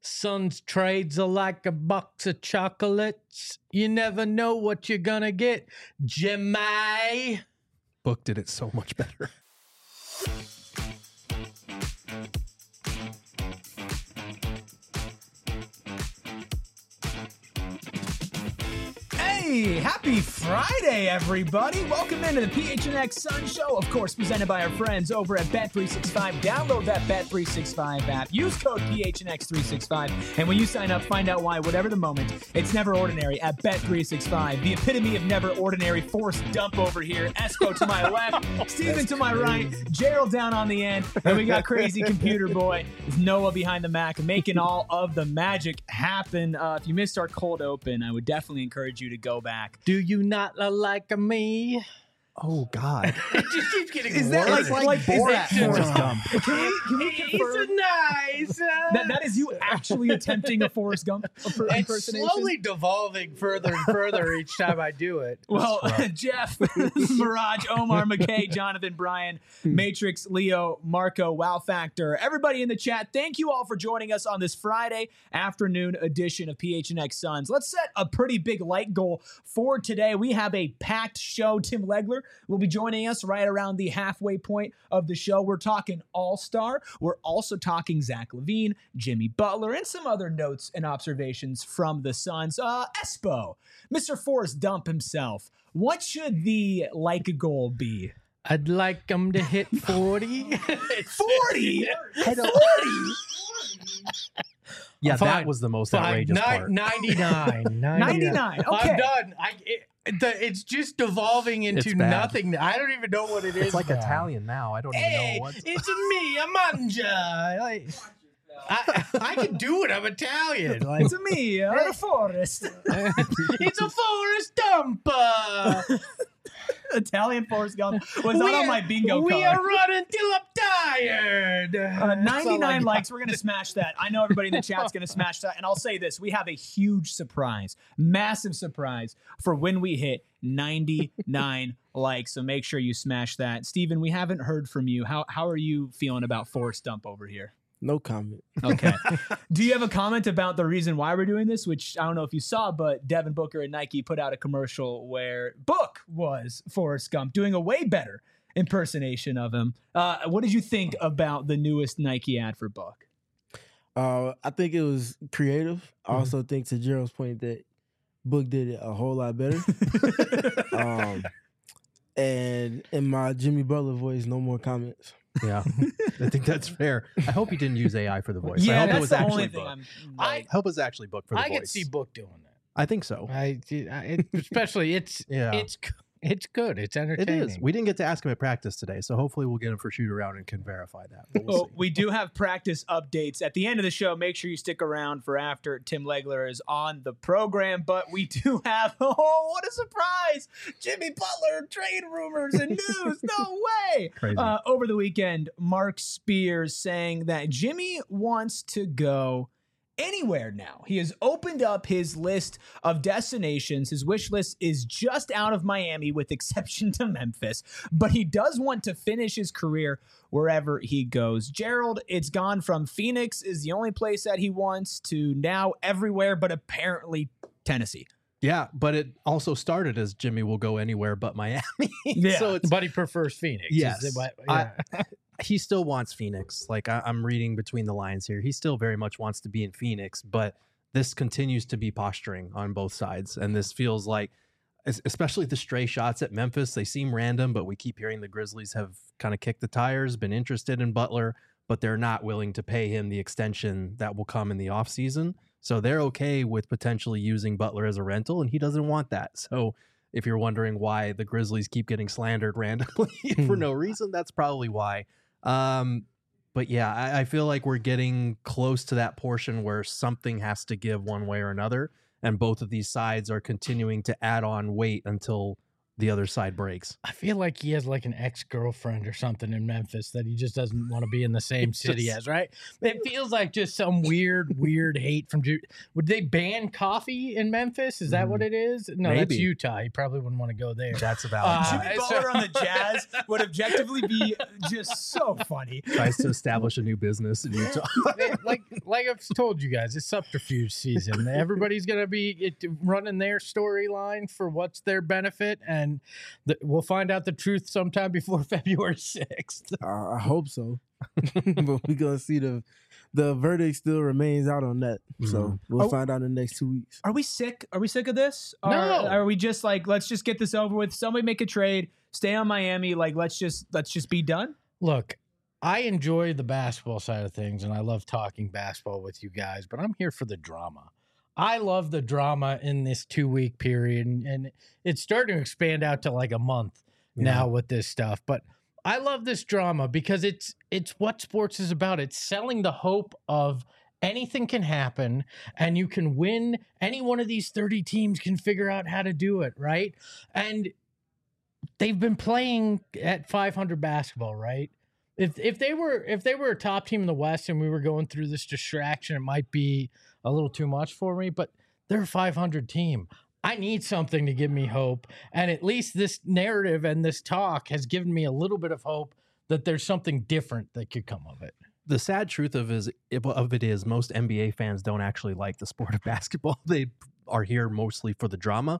Suns trades are like a box of chocolates. You never know what you're gonna get. Jemai. Book did it so much better. Hey, happy Friday, everybody. Welcome into the PHNX Sun Show, of course, presented by our friends over at Bet365. Download that Bet365 app. Use code PHNX365. And when you sign up, find out why, whatever the moment, it's never ordinary at Bet365. The epitome of never ordinary. Forced dump over here. Espo to my left. Steven to my right. Gerald down on the end. And we got crazy computer boy with Noah behind the Mac, making all of the magic happen. If you missed our cold open, I would definitely encourage you to go back. Do you not like me? Oh, God. It just keeps getting Is worse. that like Borat Forrest Gump? Can we He's confirm nice. that is you actually attempting a Forrest Gump It's impersonation? slowly devolving further and further each time I do it. Well, Jeff, Mirage, Omar, McKay, Jonathan, Brian, Matrix, Leo, Marco, Wow Factor, everybody in the chat, thank you all for joining us on this Friday afternoon edition of PHNX Suns. Let's set a pretty big light goal for today. We have a packed show. Tim Legler will be joining us right around the halfway point of the show. We're talking All-Star. We're also talking Zach LaVine, Jimmy Butler, and some other notes and observations from the Suns. Espo, Mr. Forrest Dump himself, what should the like goal be? I'd like him to hit 40. 40? 40? Yeah, Fine. that was the most Fine. outrageous part. 99. 99. Okay. I'm done. It's just devolving into It's bad. nothing. I don't even know what it is. It's like now. Italian now. I don't Hey, even know what. it's me, Amanja. I can do it. I'm Italian. Like, It's me, a Forrest. it's a Forrest Dump. Italian Forrest Gump was not on my bingo card. We are running till I'm tired. That's all I 99 got. likes. We're going to smash that. I know everybody in the chat's going to smash that. And I'll say this. We have a huge surprise, massive surprise for when we hit 99 likes. So make sure you smash that. Steven, we haven't heard from you. How are you feeling about Forrest Dump over here? No comment. Okay. Do you have a comment about the reason why we're doing this? Which I don't know if you saw, but Devin Booker and Nike put out a commercial where Book was Forrest Gump doing a way better impersonation of him. What did you think about the newest Nike ad for Book? I think it was creative. I also think, to Gerald's point, that Book did it a whole lot better. And in my Jimmy Butler voice, no more comments. Yeah, I think that's fair. I hope he didn't use AI for the voice. Yeah, I hope that's it was the actually only thing Book. I'm. I Hope it was actually Book for the I voice. can see Book doing that. I think so. Especially it's good. It's It entertaining. is. We didn't get to ask him at practice today, so hopefully we'll get him for shoot around and can verify that. But we'll Well, see. we do have practice updates at the end of the show. Make sure you stick around for after Tim Legler is on the program. But we do have, oh, what a surprise! Jimmy Butler trade rumors and news. No way! Crazy. Over the weekend, Mark Spears saying that Jimmy wants to go anywhere now. He has opened up his list of destinations. His wish list is just out of Miami with exception to Memphis, but he does want to finish his career wherever he goes. Gerald, it's gone from Phoenix is the only place that he wants to now everywhere, but apparently Tennessee. Yeah, but it also started as Jimmy will go anywhere but Miami. Yeah. So it's But he prefers Phoenix. Yes. Is it- he still wants Phoenix. Like I'm reading between the lines here. He still very much wants to be in Phoenix, but this continues to be posturing on both sides. And this feels like, especially the stray shots at Memphis, they seem random, but we keep hearing the Grizzlies have kind of kicked the tires, been interested in Butler, but they're not willing to pay him the extension that will come in the offseason. So they're okay with potentially using Butler as a rental, and he doesn't want that. So if you're wondering why the Grizzlies keep getting slandered randomly for no reason, that's probably why. But yeah, I feel like we're getting close to that portion where something has to give one way or another. And both of these sides are continuing to add on weight until the other side breaks. I feel like he has like an ex-girlfriend or something in Memphis that he just doesn't want to be in the same city as, right? It feels like just some weird hate from Would they ban coffee in Memphis? Is that what it is? No, that's Maybe. Utah. He probably wouldn't want to go there. That's a valid point. Jimmy Butler on the Jazz would objectively be just so funny. Tries to establish a new business in Utah. like I've told you guys, it's subterfuge season. Everybody's gonna be running their storyline for what's their benefit, and we'll find out the truth sometime before February 6th. I hope so, but we're gonna see the verdict still remains out on that. So we'll find out in the next 2 weeks. Are we sick? Are we sick of this? No. Are we just like, let's just get this over with? Somebody make a trade. Stay on Miami. Like, let's just be done. Look, I enjoy the basketball side of things, and I love talking basketball with you guys, but I'm here for the drama. I love the drama in this 2-week period, and it's starting to expand out to like a month now with this stuff. But I love this drama because it's what sports is about. It's selling the hope of anything can happen, and you can win. Any one of these 30 teams can figure out how to do it, right? And they've been playing at 500 basketball, right? If they were a top team in the West and we were going through this distraction, it might be a little too much for me, but they're a 500 team. I need something to give me hope. And at least this narrative and this talk has given me a little bit of hope that there's something different that could come of it. The sad truth of it is most NBA fans don't actually like the sport of basketball. They are here mostly for the drama.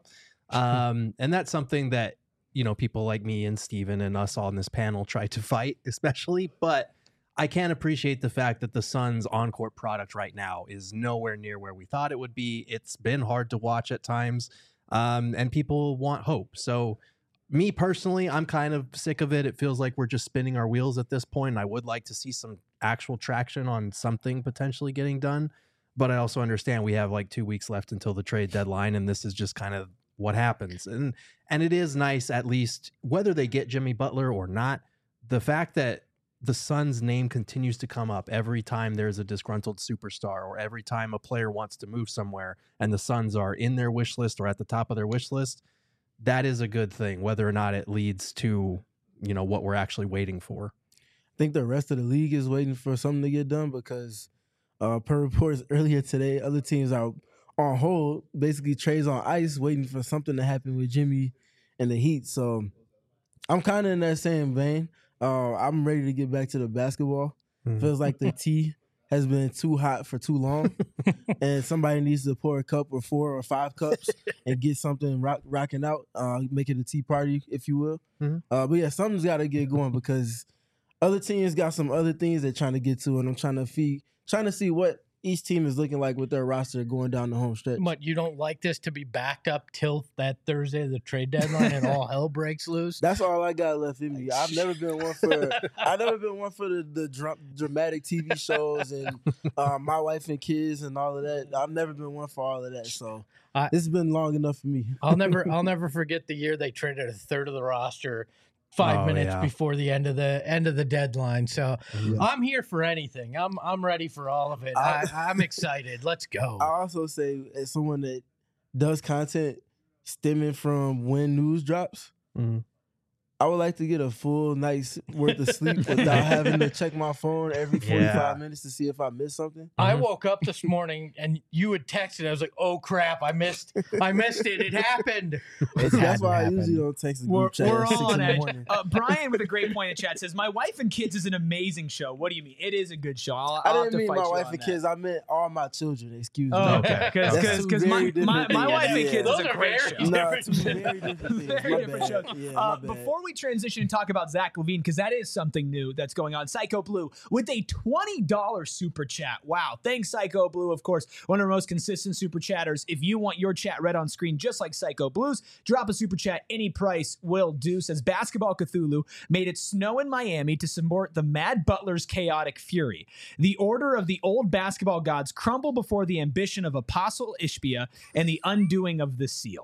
And that's something that, you know, people like me and Steven and us on this panel try to fight, especially. But I can't appreciate the fact that the Suns' on-court product right now is nowhere near where we thought it would be. It's been hard to watch at times, and people want hope. So me personally, I'm kind of sick of it. It feels like we're just spinning our wheels at this point. I would like to see some actual traction on something potentially getting done. But I also understand we have like 2 weeks left until the trade deadline, and this is just kind of what happens. And it is nice, at least, whether they get Jimmy Butler or not, the fact that the Suns' name continues to come up every time there's a disgruntled superstar or every time a player wants to move somewhere and the Suns are in their wish list or at the top of their wish list, that is a good thing, whether or not it leads to, you know, what we're actually waiting for. I think the rest of the league is waiting for something to get done because per reports earlier today, other teams are on hold, basically trades on ice, waiting for something to happen with Jimmy and the Heat. So I'm kind of in that same vein. I'm ready to get back to the basketball. Feels like the tea has been too hot for too long, and somebody needs to pour a cup or 4 or 5 cups and get something rocking out, make it a tea party, if you will. But yeah, something's got to get going because other teams got some other things they're trying to get to, and I'm trying to see what each team is looking like with their roster going down the home stretch. But you don't like this to be backed up till that Thursday, the trade deadline, and all hell breaks loose? That's all I got left in me. I've never been one for the dramatic TV shows and My Wife and Kids and all of that. I've never been one for all of that. So this has been long enough for me. I'll never forget the year they traded a third of the roster 5 minutes before the end of the deadline. So I'm here for anything. I'm ready for all of it. I'm excited. Let's go. I also say, as someone that does content stemming from when news drops, I would like to get a full night's worth of sleep without having to check my phone every 45 minutes to see if I missed something. I woke up this morning and you had texted. I was like, "Oh crap! I missed it. It happened." That's why I usually don't text the group chat. We're at 6 on in the edge. morning. Brian with a great point in chat says, "My Wife and Kids is an amazing show." What do you mean? It is a good show. I I'll have didn't to mean fight My you Wife on and that. Kids. I meant all my children. Excuse me. Oh, Okay. Because my Wife and Kids Those is a are great very show. No, different two very different things. Very My different bad. shows. Yeah, my bad. Before we transition and talk about Zach LaVine, because that is something new that's going on, Psycho Blue with a $20 super chat. Wow. Thanks, Psycho Blue. Of course, one of our most consistent super chatters. If you want your chat read on screen just like Psycho Blues, drop a super chat. Any price will do. Says Basketball Cthulhu made it snow in Miami to support the Mad Butler's chaotic fury. The order of the old basketball gods crumble before the ambition of Apostle Ishbia and the undoing of the seal.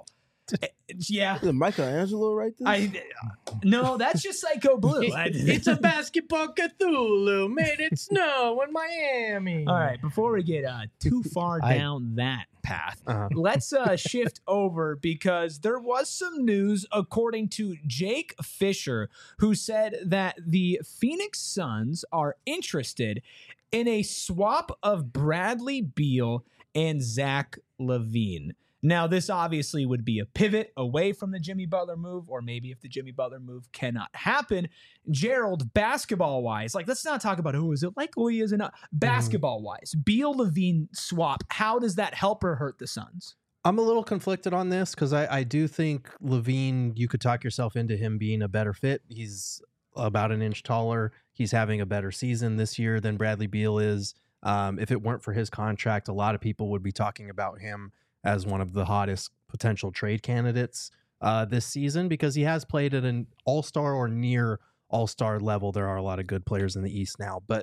Yeah. Is it Michelangelo right there? No, that's just Psycho Blue. It's a basketball Cthulhu made it snow in Miami. All right, before we get too far down that path, let's shift over because there was some news according to Jake Fisher, who said that the Phoenix Suns are interested in a swap of Bradley Beal and Zach LaVine. Now, this obviously would be a pivot away from the Jimmy Butler move, or maybe if the Jimmy Butler move cannot happen, Gerald, basketball-wise, like, let's not talk about who is it likely is enough. Basketball-wise, Beal-LaVine swap, how does that help or hurt the Suns? I'm a little conflicted on this because I do think LaVine, you could talk yourself into him being a better fit. He's about an inch taller. He's having a better season this year than Bradley Beal is. If it weren't for his contract, a lot of people would be talking about him as one of the hottest potential trade candidates this season because he has played at an all-star or near all-star level. There are a lot of good players in the East now, but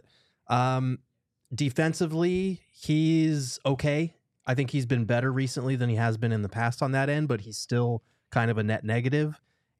defensively, he's okay. I think he's been better recently than he has been in the past on that end, but he's still kind of a net negative.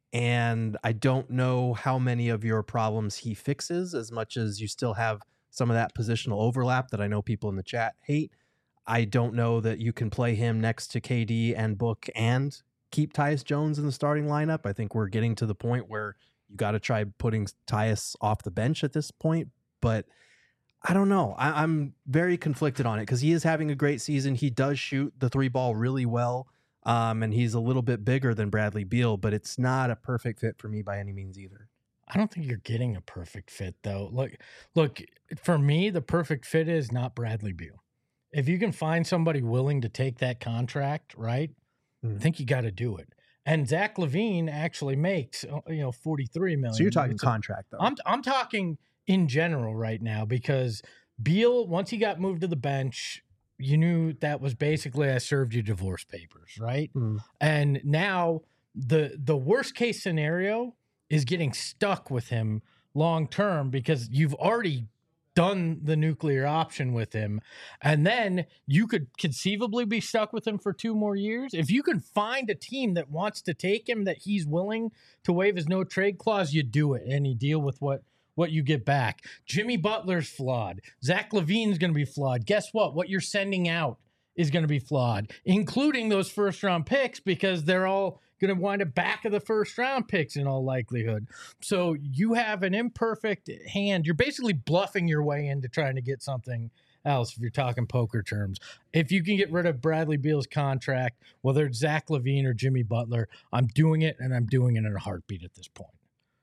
And I don't know how many of your problems he fixes as much as you still have some of that positional overlap that I know people in the chat hate. I don't know that you can play him next to KD and Book and keep Tyus Jones in the starting lineup. I think we're getting to the point where you got to try putting Tyus off the bench at this point. But I don't know. I'm very conflicted on it because he is having a great season. He does shoot the three ball really well. And he's a little bit bigger than Bradley Beal, but it's not a perfect fit for me by any means either. I don't think you're getting a perfect fit, though. Look, for me, the perfect fit is not Bradley Beal. If you can find somebody willing to take that contract, right, I think you got to do it. And Zach LaVine actually makes, $43 million. So you're talking contract, though. I'm talking in general right now because Beal, once he got moved to the bench, you knew that was basically I served you divorce papers, right? And now the worst case scenario is getting stuck with him long term because you've already done the nuclear option with him. And then you could conceivably be stuck with him for 2 more years. If you can find a team that wants to take him, that he's willing to waive his no trade clause, you do it and you deal with what you get back. Jimmy Butler's flawed. Zach LaVine's going to be flawed. Guess what? What you're sending out is going to be flawed, including those first-round picks because they're all going to wind up back of the first-round picks in all likelihood. So you have an imperfect hand. You're basically bluffing your way into trying to get something else if you're talking poker terms. If you can get rid of Bradley Beal's contract, whether it's Zach LaVine or Jimmy Butler, I'm doing it, and I'm doing it in a heartbeat at this point.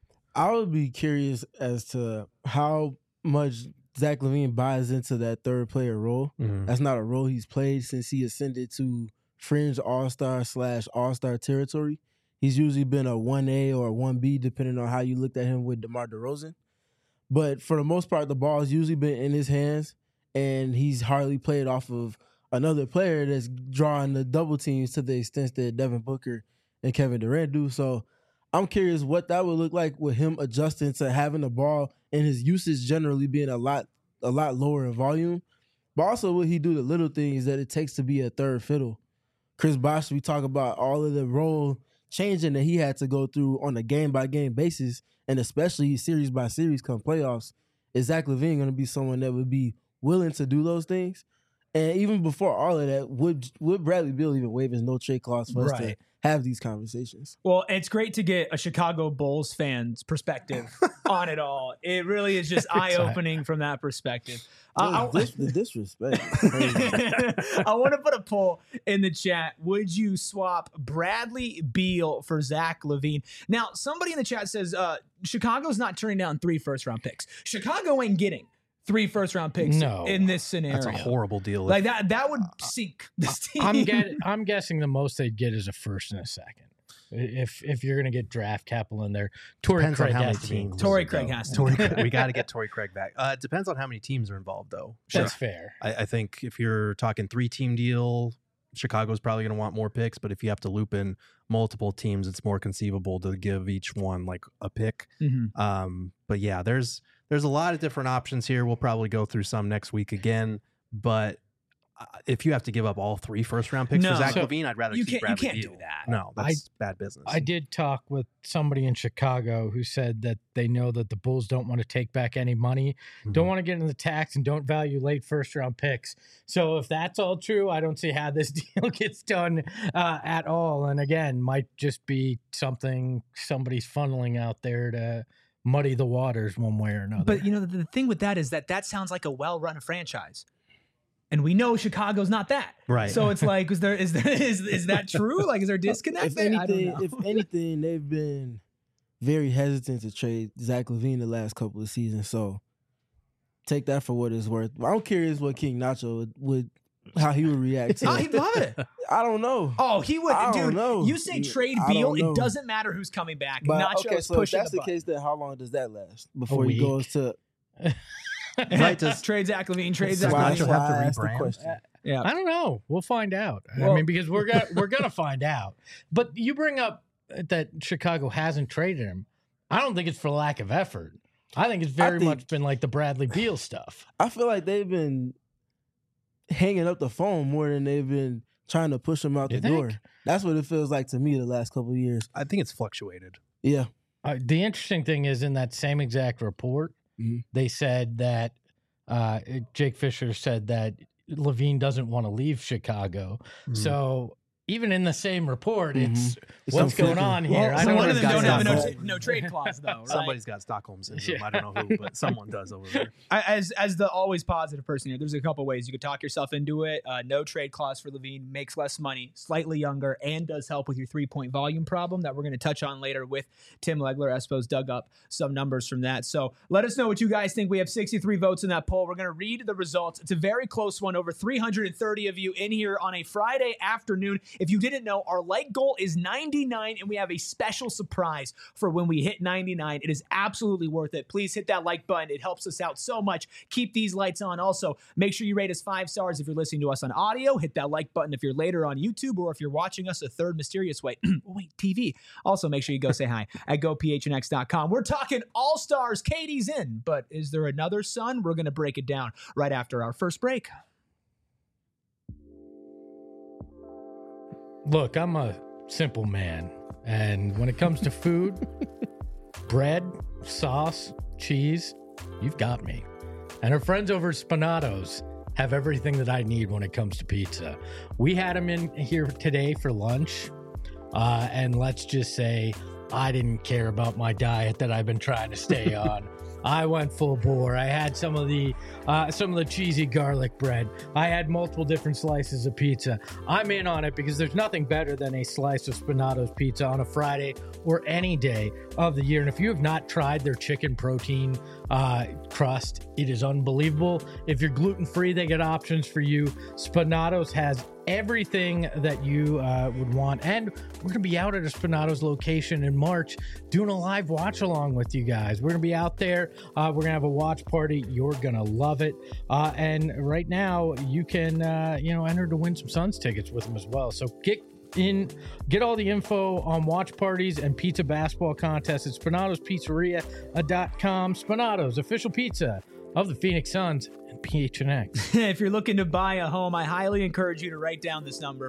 I would be curious as to how much Zach LaVine buys into that third player role. That's not a role he's played since he ascended to fringe all-star / all-star territory. He's usually been a 1A or a 1B, depending on how you looked at him with DeMar DeRozan. But for the most part, the ball has usually been in his hands, and he's hardly played off of another player that's drawing the double teams to the extent that Devin Booker and Kevin Durant do. So I'm curious what that would look like with him adjusting to having the ball and his usage generally being a lot lower in volume. But also will he do the little things that it takes to be a third fiddle? Chris Bosh, we talk about all of the role changing that he had to go through on a game-by-game basis, and especially series by series come playoffs. Is Zach LaVine going to be someone that would be willing to do those things? And even before all of that, would Bradley Beal even waive his no-trade clause for us to have these conversations? Well, it's great to get a Chicago Bulls fan's perspective on it all. It really is just eye-opening from that perspective. The disrespect. I want to put a poll in the chat. Would you swap Bradley Beal for Zach LaVine? Now, somebody in the chat says Chicago's not turning down 3 first-round picks. Chicago ain't getting 3 first-round picks in this scenario. That's a horrible deal. Like that would sink this team. I'm guessing the most they'd get is a first and a second. If you're going to get draft capital in there, Torrey Craig has to be. Torrey Craig has to. We got to get Torrey Craig back. It depends on how many teams are involved, though. That's fair. I think if you're talking 3-team deal, Chicago's probably going to want more picks. But if you have to loop in multiple teams, it's more conceivable to give each one like a pick. But yeah, there's a lot of different options here. We'll probably go through some next week again. But if you have to give up all 3 first-round picks for No. Zach So, LaVine, I'd rather you keep can't Bradley do Beal. that. No, that's bad business. I did talk with somebody in Chicago who said that they know that the Bulls don't want to take back any money, don't want to get into the tax, and don't value late first-round picks. So if that's all true, I don't see how this deal gets done at all. And again, might just be something somebody's funneling out there to muddy the waters one way or another. But the thing with that is that sounds like a well-run franchise, and we know Chicago's not that. Right. So it's like, is that true? Like, is there a disconnect? If there? I don't know. anything, they've been very hesitant to trade Zach LaVine the last couple of seasons. So take that for what it's worth. I'm curious what King Nacho would how he would react to Oh, that. he'd love it. I don't know. Oh, he would, I don't dude. know. You say trade I Beal, don't know. it doesn't matter who's coming back. But Nacho okay, is so if pushing that's the the button. case, then how long does that last before he week. goes to? Right, trade Zach LaVine, trade Zach why LaVine. Nacho have to I asked the rebrand? question. Yeah. I don't know. We'll find out. I Well- mean, because we're gonna find out. But you bring up that Chicago hasn't traded him. I don't think it's for lack of effort. I think it's very think- much been like the Bradley Beal stuff. I feel like they've been hanging up the phone more than they've been trying to push him out You the think? door. That's what it feels like to me the last couple of years. I think it's fluctuated. Yeah. The interesting thing is in that same exact report, Mhm. they said that Jake Fisher said that Levine doesn't want to leave Chicago. So even in the same report, it's It's what's going conflicting. on here. Well, I so don't one of know. them don't have a Stockholm. no trade clause, though, right? Somebody's got Stockholm syndrome. I don't know who, but someone does over there. As the always positive person here, there's a couple ways you could talk yourself into it. No trade clause for Levine, makes less money, slightly younger, and does help with your 3-point volume problem that we're going to touch on later with Tim Legler. Espo's dug up some numbers from that. So let us know what you guys think. We have 63 votes in that poll. We're going to read the results. It's a very close one. Over 330 of you in here on a Friday afternoon. If you didn't know, our like goal is 99, and we have a special surprise for when we hit 99. It is absolutely worth it. Please hit that like button. It helps us out so much. Keep these lights on. Also, make sure you rate us 5 stars if you're listening to us on audio. Hit that like button if you're later on YouTube, or if you're watching us a third mysterious way. Wait, TV. Also, make sure you go say hi at gophnx.com. We're talking all-stars. Katie's in, but is there another son? We're going to break it down right after our first break. Look, I'm a simple man. And when it comes to food, bread, sauce, cheese, you've got me. And our friends over at Spinatos have everything that I need when it comes to pizza. We had them in here today for lunch. And let's just say I didn't care about my diet that I've been trying to stay on. I went full bore. I had some of the cheesy garlic bread. I had multiple different slices of pizza. I'm in on it because there's nothing better than a slice of Spinato's pizza on a Friday or any day of the year. And if you have not tried their chicken protein crust, it is unbelievable. If you're gluten-free, they get options for you. Spinatos has everything that you would want. And we're going to be out at a Spinatos location in March doing a live watch along with you guys. We're going to be out there. We're going to have a watch party. You're going to love it. And right now you can, enter to win some Suns tickets with them as well. So get all the info on watch parties and pizza basketball contests at SpinatosPizzeria.com. Spinatos, official pizza of the Phoenix Suns and PHNX. If you're looking to buy a home, I highly encourage you to write down this number,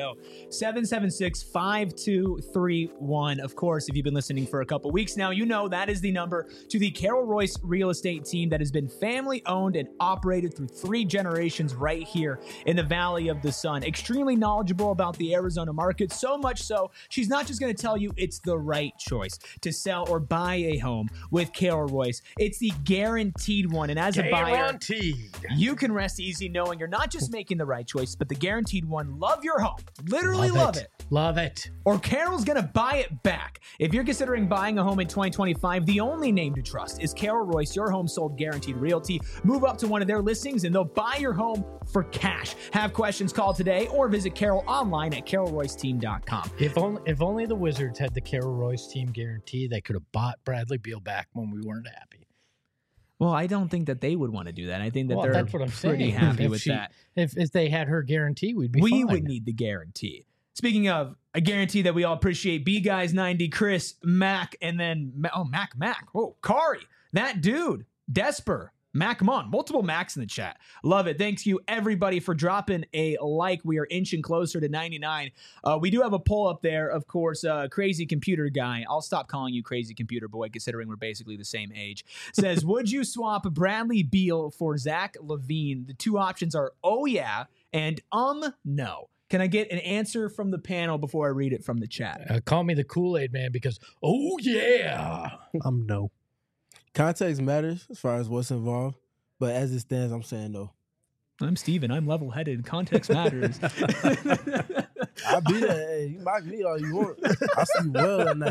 480-776-5231. Of course, if you've been listening for a couple weeks now, you know that is the number to the Carol Royce real estate team that has been family owned and operated through 3 generations right here in the Valley of the Sun. Extremely knowledgeable about the Arizona market, so much so, she's not just going to tell you it's the right choice to sell or buy a home with Carol Royce. It's the guaranteed one. And as a buyer, Guaranteed. you can rest easy knowing you're not just making the right choice, but the guaranteed one. Love your home. Literally love it. Love it. Or Carol's going to buy it back. If you're considering buying a home in 2025, the only name to trust is Carol Royce, your home sold guaranteed realty. Move up to one of their listings and they'll buy your home for cash. Have questions, call today or visit Carol online at carolroyceteam.com. If only the Wizards had the Carol Royce team guarantee, they could have bought Bradley Beal back when we weren't happy. Well, I don't think that they would want to do that. I think that Well, they're that's what I'm pretty saying. happy If with she- that. If they had her guarantee, we'd be We fine. would need the guarantee. Speaking of a guarantee that we all appreciate, B Guys 90, Chris, Mac, and then Mac. Oh, Kari, that dude, Desper. Mac Mon, multiple Macs in the chat. Love it. Thanks you, everybody, for dropping a like. We are inching closer to 99. We do have a poll up there, of course. Crazy Computer Guy, I'll stop calling you Crazy Computer Boy, considering we're basically the same age, says, would you swap Bradley Beal for Zach LaVine? The two options are, oh, yeah, and no. Can I get an answer from the panel before I read it from the chat? Call me the Kool-Aid man because, oh, yeah. No. Context matters as far as what's involved, but as it stands, I'm saying no. I'm Steven. I'm level-headed. Context matters. I'll be there. Hey, you mock me all you want. I'll sleep well at night.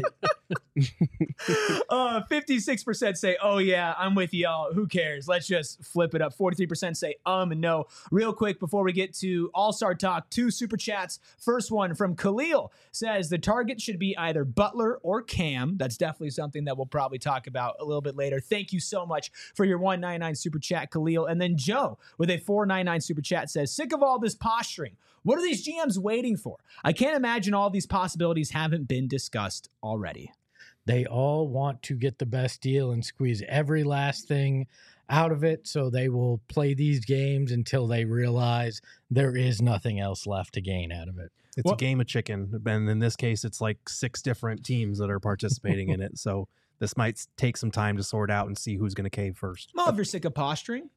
56% say, oh, yeah, I'm with y'all. Who cares? Let's just flip it up. 43% say, no. Real quick, before we get to All-Star Talk, 2 super chats. First one from Khalil says the target should be either Butler or Cam. That's definitely something that we'll probably talk about a little bit later. Thank you so much for your 199 super chat, Khalil. And then Joe with a 499 super chat says, sick of all this posturing. What are these GMs waiting for? I can't imagine all these possibilities haven't been discussed already. They all want to get the best deal and squeeze every last thing out of it, so they will play these games until they realize there is nothing else left to gain out of it. It's a game of chicken, and in this case, it's like 6 different teams that are participating in it. So this might take some time to sort out and see who's going to cave first. Well, if you're sick of posturing.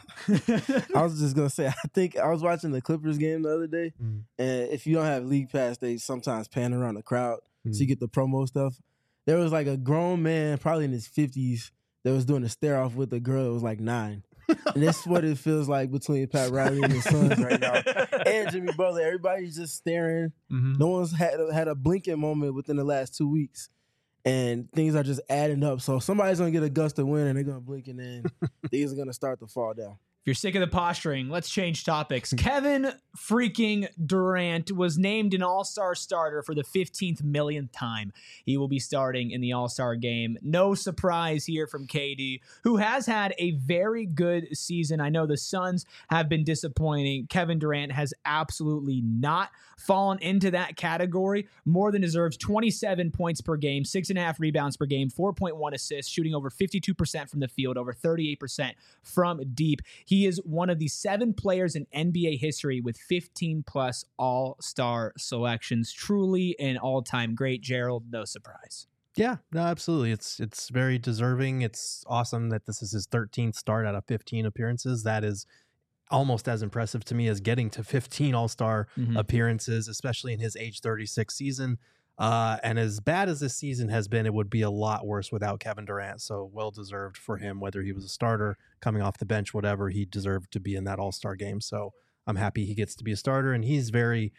I was just going to say, I think I was watching the Clippers game the other day, and if you don't have League Pass, they sometimes pan around the crowd so you get the promo stuff. There was like a grown man, probably in his 50s, that was doing a stare-off with a girl that was like 9. And that's what it feels like between Pat Riley and his sons right now. And Jimmy Butler. Everybody's just staring. No one's had a blinking moment within the last 2 weeks. And things are just adding up. So somebody's going to get a gust of wind, and they're going to blink, and then things are going to start to fall down. If you're sick of the posturing, let's change topics. Kevin freaking Durant was named an All-Star starter for the 15th millionth time. He will be starting in the All-Star game. No surprise here from KD, who has had a very good season. I know the Suns have been disappointing. Kevin Durant has absolutely not fallen into that category. More than deserves. 27 points per game, 6.5 rebounds per game, 4.1 assists, shooting over 52% from the field, over 38% from deep. He is one of the 7 players in NBA history with 15-plus All-Star selections. Truly an all-time great. Gerald, no surprise. Yeah, no, absolutely. It's very deserving. It's awesome that this is his 13th start out of 15 appearances. That is almost as impressive to me as getting to 15 All-Star appearances, especially in his age 36 season. And as bad as this season has been, it would be a lot worse without Kevin Durant. So well-deserved for him, whether he was a starter, coming off the bench, whatever, he deserved to be in that All-Star game. So I'm happy he gets to be a starter, and he's very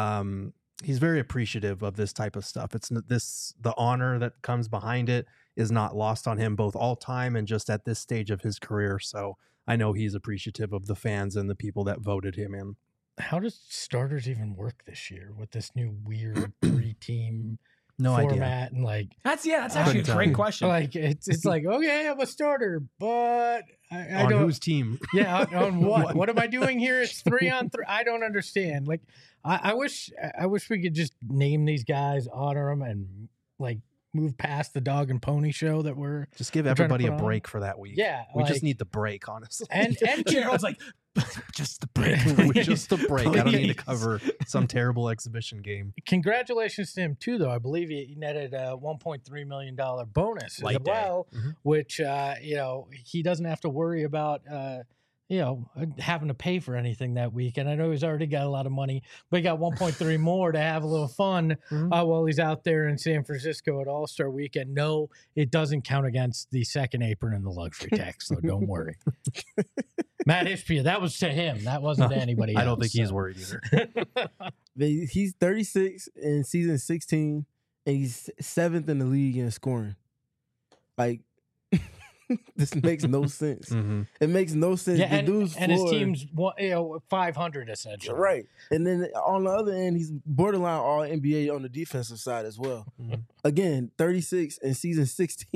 appreciative of this type of stuff. The honor that comes behind it is not lost on him, both all time and just at this stage of his career. So I know he's appreciative of the fans and the people that voted him in. How does starters even work this year with this new weird 3-team format? Idea. And like that's actually a great question. Like it's like, okay, I'm a starter, but I on don't, whose team? Yeah, on what? What am I doing here? It's 3-on-3. I don't understand. Like I wish we could just name these guys, honor them, and like move past the dog and pony show that we're just give everybody a break for that week. Yeah, we just need the break, honestly. And Gerald's like, just the break. Just the break. I don't need to cover some terrible exhibition game. Congratulations to him too, though. I believe he netted a $1.3 million bonus Light as well, which he doesn't have to worry about having to pay for anything that week. And I know he's already got a lot of money, but he got 1.3 more to have a little fun while he's out there in San Francisco at All-Star Weekend. No, it doesn't count against the second apron and the luxury tax, so don't worry. Matt Ishbia, that was to him. That wasn't to anybody else. I don't think he's worried either. He's 36 in season 16, and he's 7th in the league in scoring. Like, this makes no sense. It makes no sense. Yeah, the dude's and his team's 500 essentially. Right. And then on the other end, he's borderline all NBA on the defensive side as well. Again, 36 in season 16.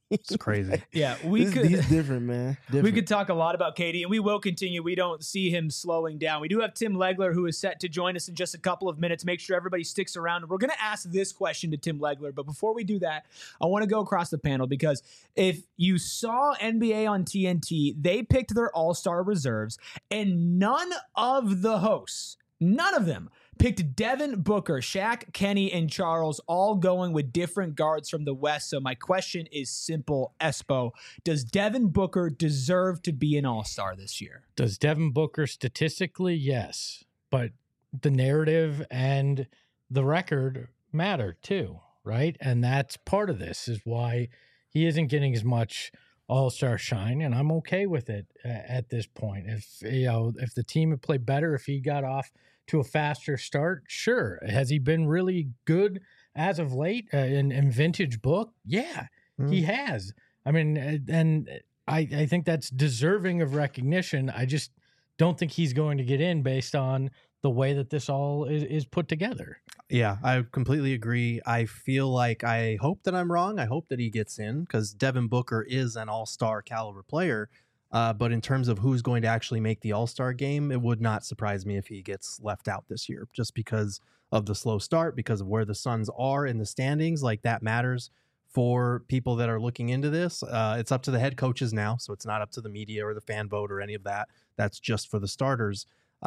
It's crazy. Yeah, He's different, man. Different. We could talk a lot about KD, and we will continue. We don't see him slowing down. We do have Tim Legler, who is set to join us in just a couple of minutes. Make sure everybody sticks around. We're going to ask this question to Tim Legler, but before we do that, I want to go across the panel, because if you saw NBA on TNT, they picked their all-star reserves, and none of the hosts, none of them, picked Devin Booker, Shaq, Kenny, and Charles, all going with different guards from the West. So my question is simple, Espo. Does Devin Booker deserve to be an all-star this year? Does Devin Booker statistically? Yes. But the narrative and the record matter too, right? And that's part of this, is why he isn't getting as much all-star shine, and I'm okay with it at this point. If the team had played better, if he got off to a faster start, sure. Has he been really good as of late in vintage book? Yeah, he has. I mean, and I think that's deserving of recognition. I just don't think he's going to get in based on the way that this all is put together. Yeah, I completely agree. I feel like, I hope that I'm wrong. I hope that he gets in, because Devin Booker is an all-star caliber player. But in terms of who's going to actually make the all-star game, it would not surprise me if he gets left out this year, just because of the slow start, because of where the Suns are in the standings. Like, that matters for people that are looking into this. It's up to the head coaches now, so it's not up to the media or the fan vote or any of that. That's just for the starters.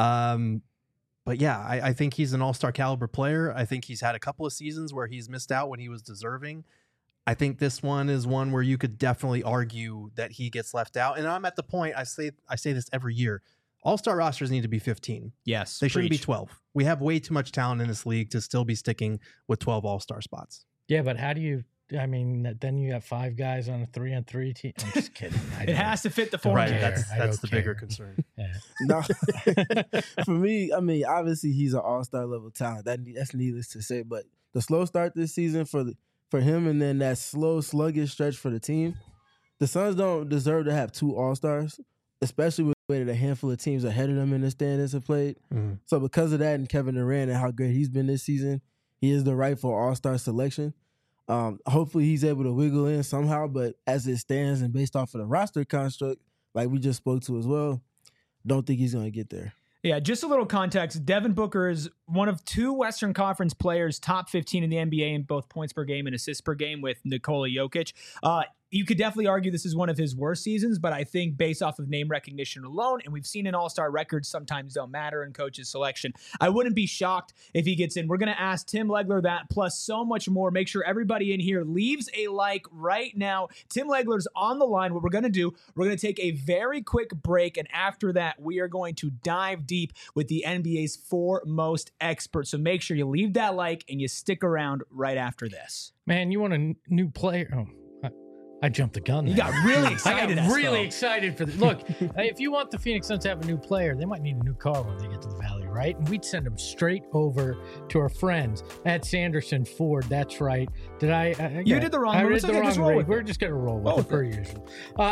But yeah, I think he's an all-star caliber player. I think he's had a couple of seasons where he's missed out when he was deserving. I think this one is one where you could definitely argue that he gets left out. And I'm at the point, I say this every year, all-star rosters need to be 15. Yes. They shouldn't be 12. We have way too much talent in this league to still be sticking with 12 all-star spots. Yeah, but how do you, I mean, then you have 5 guys on a 3-on-3 team. I'm just kidding. It has to fit the format. Right, that's the care. bigger concern. Yeah. No, for me, I mean, obviously he's an all-star level talent. That's needless to say. But the slow start this season for him, and then that slow, sluggish stretch for the team, the Suns don't deserve to have 2 all-stars, especially with the way that a handful of teams ahead of them in the standings have played. Mm-hmm. So because of that, and Kevin Durant and how great he's been this season, he is the rightful all-star selection. Hopefully he's able to wiggle in somehow, but as it stands and based off of the roster construct, like we just spoke to as well, don't think he's going to get there. Yeah, just a little context. Devin Booker is one of 2 Western Conference players, top 15 in the NBA in both points per game and assists per game, with Nikola Jokic. You could definitely argue this is one of his worst seasons, but I think based off of name recognition alone, and we've seen in all-star records sometimes don't matter in coaches' selection, I wouldn't be shocked if he gets in. We're going to ask Tim Legler that, plus so much more. Make sure everybody in here leaves a like right now. Tim Legler's on the line. What we're going to do, we're going to take a very quick break, and after that, we are going to dive deep with the NBA's foremost experts. So make sure you leave that like and you stick around right after this. Man, you want a new player? Oh. I jumped the gun there. You got really excited. I got really excited for this. Look, if you want the Phoenix Suns to have a new player, they might need a new car when they get to the Valley, right? And we'd send them straight over to our friends at Sanderson Ford. That's right. Did I? You did the wrong one. It's okay, just roll with We're just going to roll with it per usual.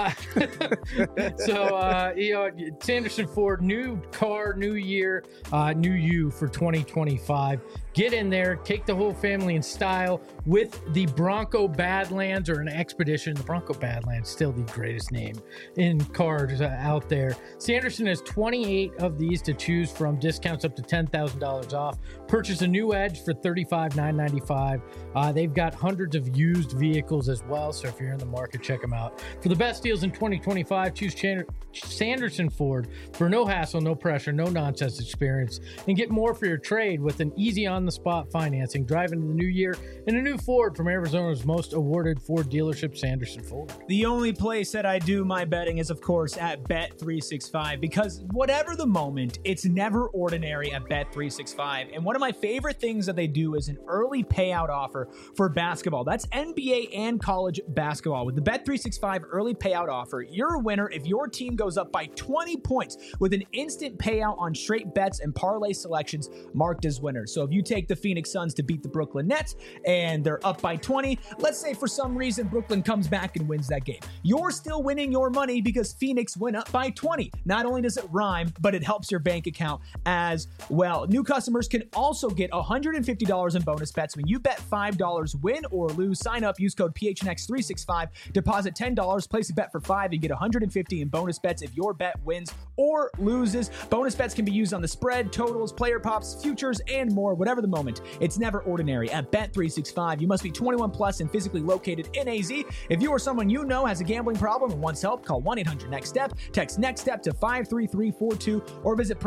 Sanderson Ford, new car, new year, new you for 2025. Get in there, take the whole family in style with the Bronco Badlands, or an Expedition. The Bronco Badlands, still the greatest name in cars out there. Sanderson has 28 of these to choose from, discounts up to $10,000 off. Purchase a new Edge for $35,995. They've got hundreds of used vehicles as well, so if you're in the market, check them out. For the best deals in 2025, choose Sanderson Ford for no hassle, no pressure, no nonsense experience, and get more for your trade with an easy on-the-spot financing. Drive into the new year in a new Ford from Arizona's most awarded Ford dealership, Sanderson Ford. The only place that I do my betting is, of course, at Bet365, because whatever the moment, it's never ordinary at Bet365. And one of my favorite things that they do is an early payout offer for basketball. That's NBA and college basketball. With the Bet365 early payout offer, you're a winner if your team goes up by 20 points with an instant payout on straight bets and parlay selections marked as winners. So if you take the Phoenix Suns to beat the Brooklyn Nets and they're up by 20, let's say for some reason Brooklyn comes back back and wins that game. You're still winning your money because Phoenix went up by 20. Not only does it rhyme, but it helps your bank account as well. New customers can also get $150 in bonus bets when you bet $5, win or lose. Sign up, use code PHNX365, deposit $10, place a bet for $5, and get $150 in bonus bets if your bet wins or loses. Bonus bets can be used on the spread, totals, player props, futures, and more, whatever the moment. It's never ordinary at Bet365. You must be 21 plus and physically located in AZ. If you or someone you know has a gambling problem and wants help, call 1-800-NEXT-STEP, text NEXT-STEP to 53342, or visit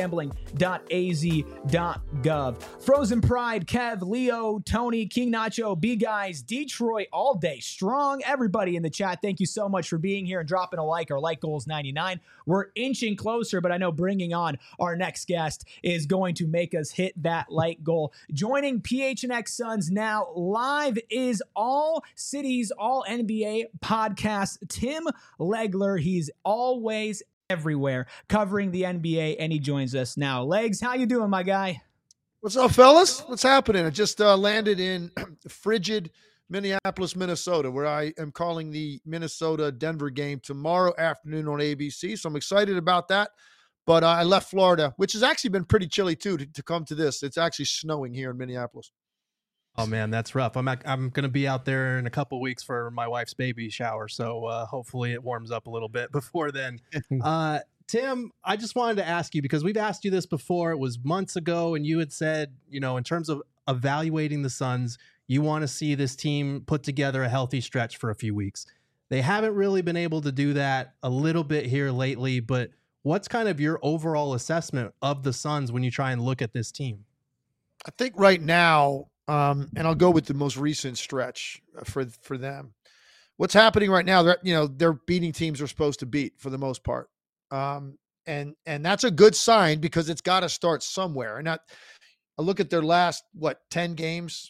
problemgambling.az.gov. Frozen Pride, Kev, Leo, Tony, King Nacho, B-Guys, Detroit, all day strong. Everybody in the chat, thank you so much for being here and dropping a like. Our like goal is 99. We're inching closer, but I know bringing on our next guest is going to make us hit that like goal. Joining PHNX Suns now live is All Cities, All NBA podcast, Tim Legler. He's always everywhere covering the NBA, and he joins us now. Legs, how you doing, my guy? What's up, fellas? What's happening? I just landed in frigid Minneapolis, Minnesota, where I am calling the Minnesota-Denver game tomorrow afternoon on ABC. So I'm excited about that. But I left Florida, which has actually been pretty chilly, too, to come to this. It's actually snowing here in Minneapolis. Oh, man, that's rough. I'm going to be out there in a couple weeks for my wife's baby shower. So hopefully it warms up a little bit before then. Tim, I just wanted to ask you, because we've asked you this before. It was months ago, and you had said, in terms of evaluating the Suns, you want to see this team put together a healthy stretch for a few weeks. They haven't really been able to do that a little bit here lately, but what's kind of your overall assessment of the Suns when you try and look at this team? I think right now, and I'll go with the most recent stretch for them. What's happening right now, they're beating teams they're supposed to beat for the most part. And that's a good sign because it's got to start somewhere. And I look at their last, 10 games.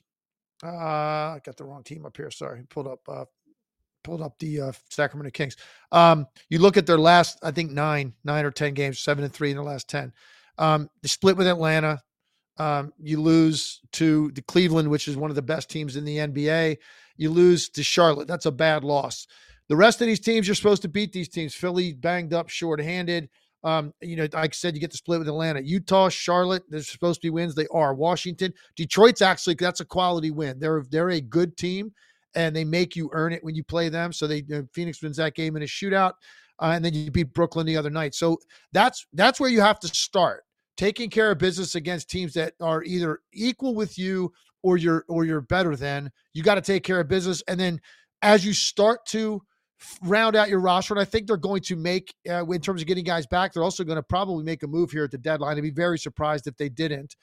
I got the wrong team up here. Sorry. Pulled up the Sacramento Kings. You look at their last, I think 9 or 10 games, 7-3 in the last 10. They split with Atlanta. You lose to the Cleveland, which is one of the best teams in the NBA. You lose to Charlotte. That's a bad loss. The rest of these teams, you're supposed to beat these teams. Philly banged up, short-handed. Like I said, you get to split with Atlanta. Utah, Charlotte, they're supposed to be wins. They are. Washington, Detroit's actually, that's a quality win. They're a good team, and they make you earn it when you play them. So Phoenix wins that game in a shootout, and then you beat Brooklyn the other night. So that's where you have to start, taking care of business against teams that are either equal with you or you're better than. You got to take care of business, and then as you start to round out your roster, and I think they're going to make, in terms of getting guys back, they're also going to probably make a move here at the deadline. I'd be very surprised if they didn't.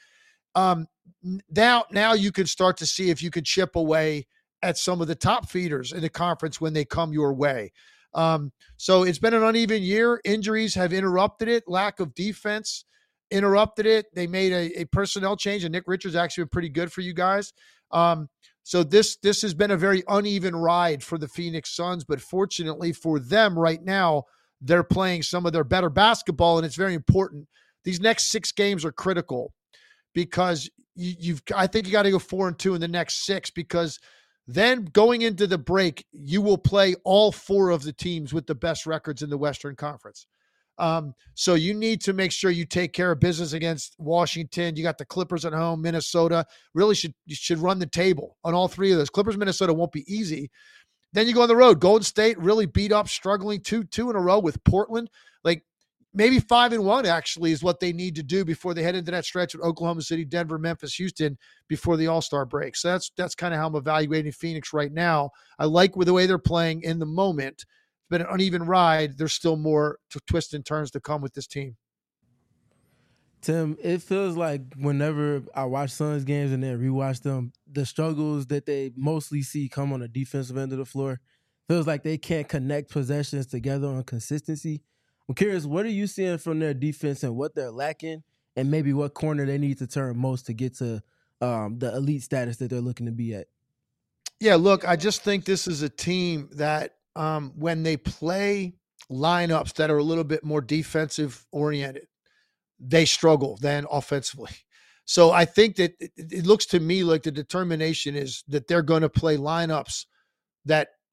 Now you can start to see if you can chip away at some of the top feeders in the conference when they come your way. So it's been an uneven year. Injuries have interrupted it. Lack of defense interrupted it. They made a personnel change, and Nick Richards actually been pretty good for you guys. So this has been a very uneven ride for the Phoenix Suns, but fortunately for them right now, they're playing some of their better basketball, and it's very important. These next 6 games are critical because I think you got to go 4-2 in the next 6, because then going into the break, you will play all 4 of the teams with the best records in the Western Conference. So you need to make sure you take care of business against Washington. You got the Clippers at home. Minnesota really should run the table on all 3 of those. Clippers, Minnesota won't be easy. Then you go on the road. Golden State really beat up, struggling 2 in a row with Portland. Like maybe 5-1 actually is what they need to do before they head into that stretch with Oklahoma City, Denver, Memphis, Houston before the All-Star break. So that's kind of how I'm evaluating Phoenix right now. I like the way they're playing in the moment. Been an uneven ride. There's still more twists and turns to come with this team. Tim, it feels like whenever I watch Suns games and then rewatch them, the struggles that they mostly see come on the defensive end of the floor. Feels like they can't connect possessions together on consistency. I'm curious, what are you seeing from their defense and what they're lacking, and maybe what corner they need to turn most to get to the elite status that they're looking to be at? Yeah, look, I just think this is a team that when they play lineups that are a little bit more defensive oriented, they struggle then offensively. So I think that it looks to me like the determination is that they're going to play lineups that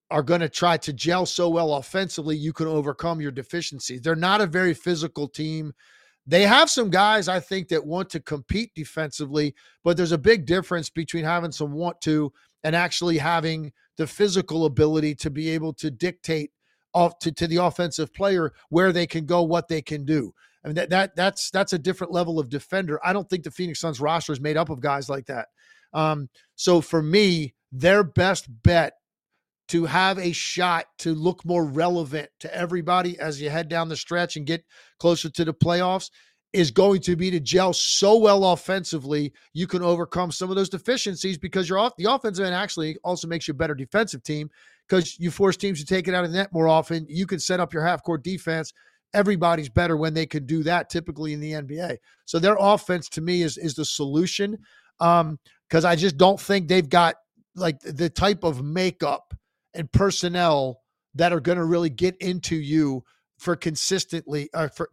are going to try to gel so well offensively, you can overcome your deficiencies. They're not a very physical team. They have some guys, I think, that want to compete defensively, but there's a big difference between having some want to and actually having the physical ability to be able to dictate off to the offensive player where they can go, what they can do. I mean, that's a different level of defender. I don't think the Phoenix Suns roster is made up of guys like that. So for me, their best bet to have a shot to look more relevant to everybody as you head down the stretch and get closer to the playoffs is going to be to gel so well offensively you can overcome some of those deficiencies, because the offensive end actually also makes you a better defensive team because you force teams to take it out of the net more often. You can set up your half-court defense. Everybody's better when they can do that typically in the NBA. So their offense to me is the solution, because I just don't think they've got like the type of makeup and personnel that are going to really get into you for consistently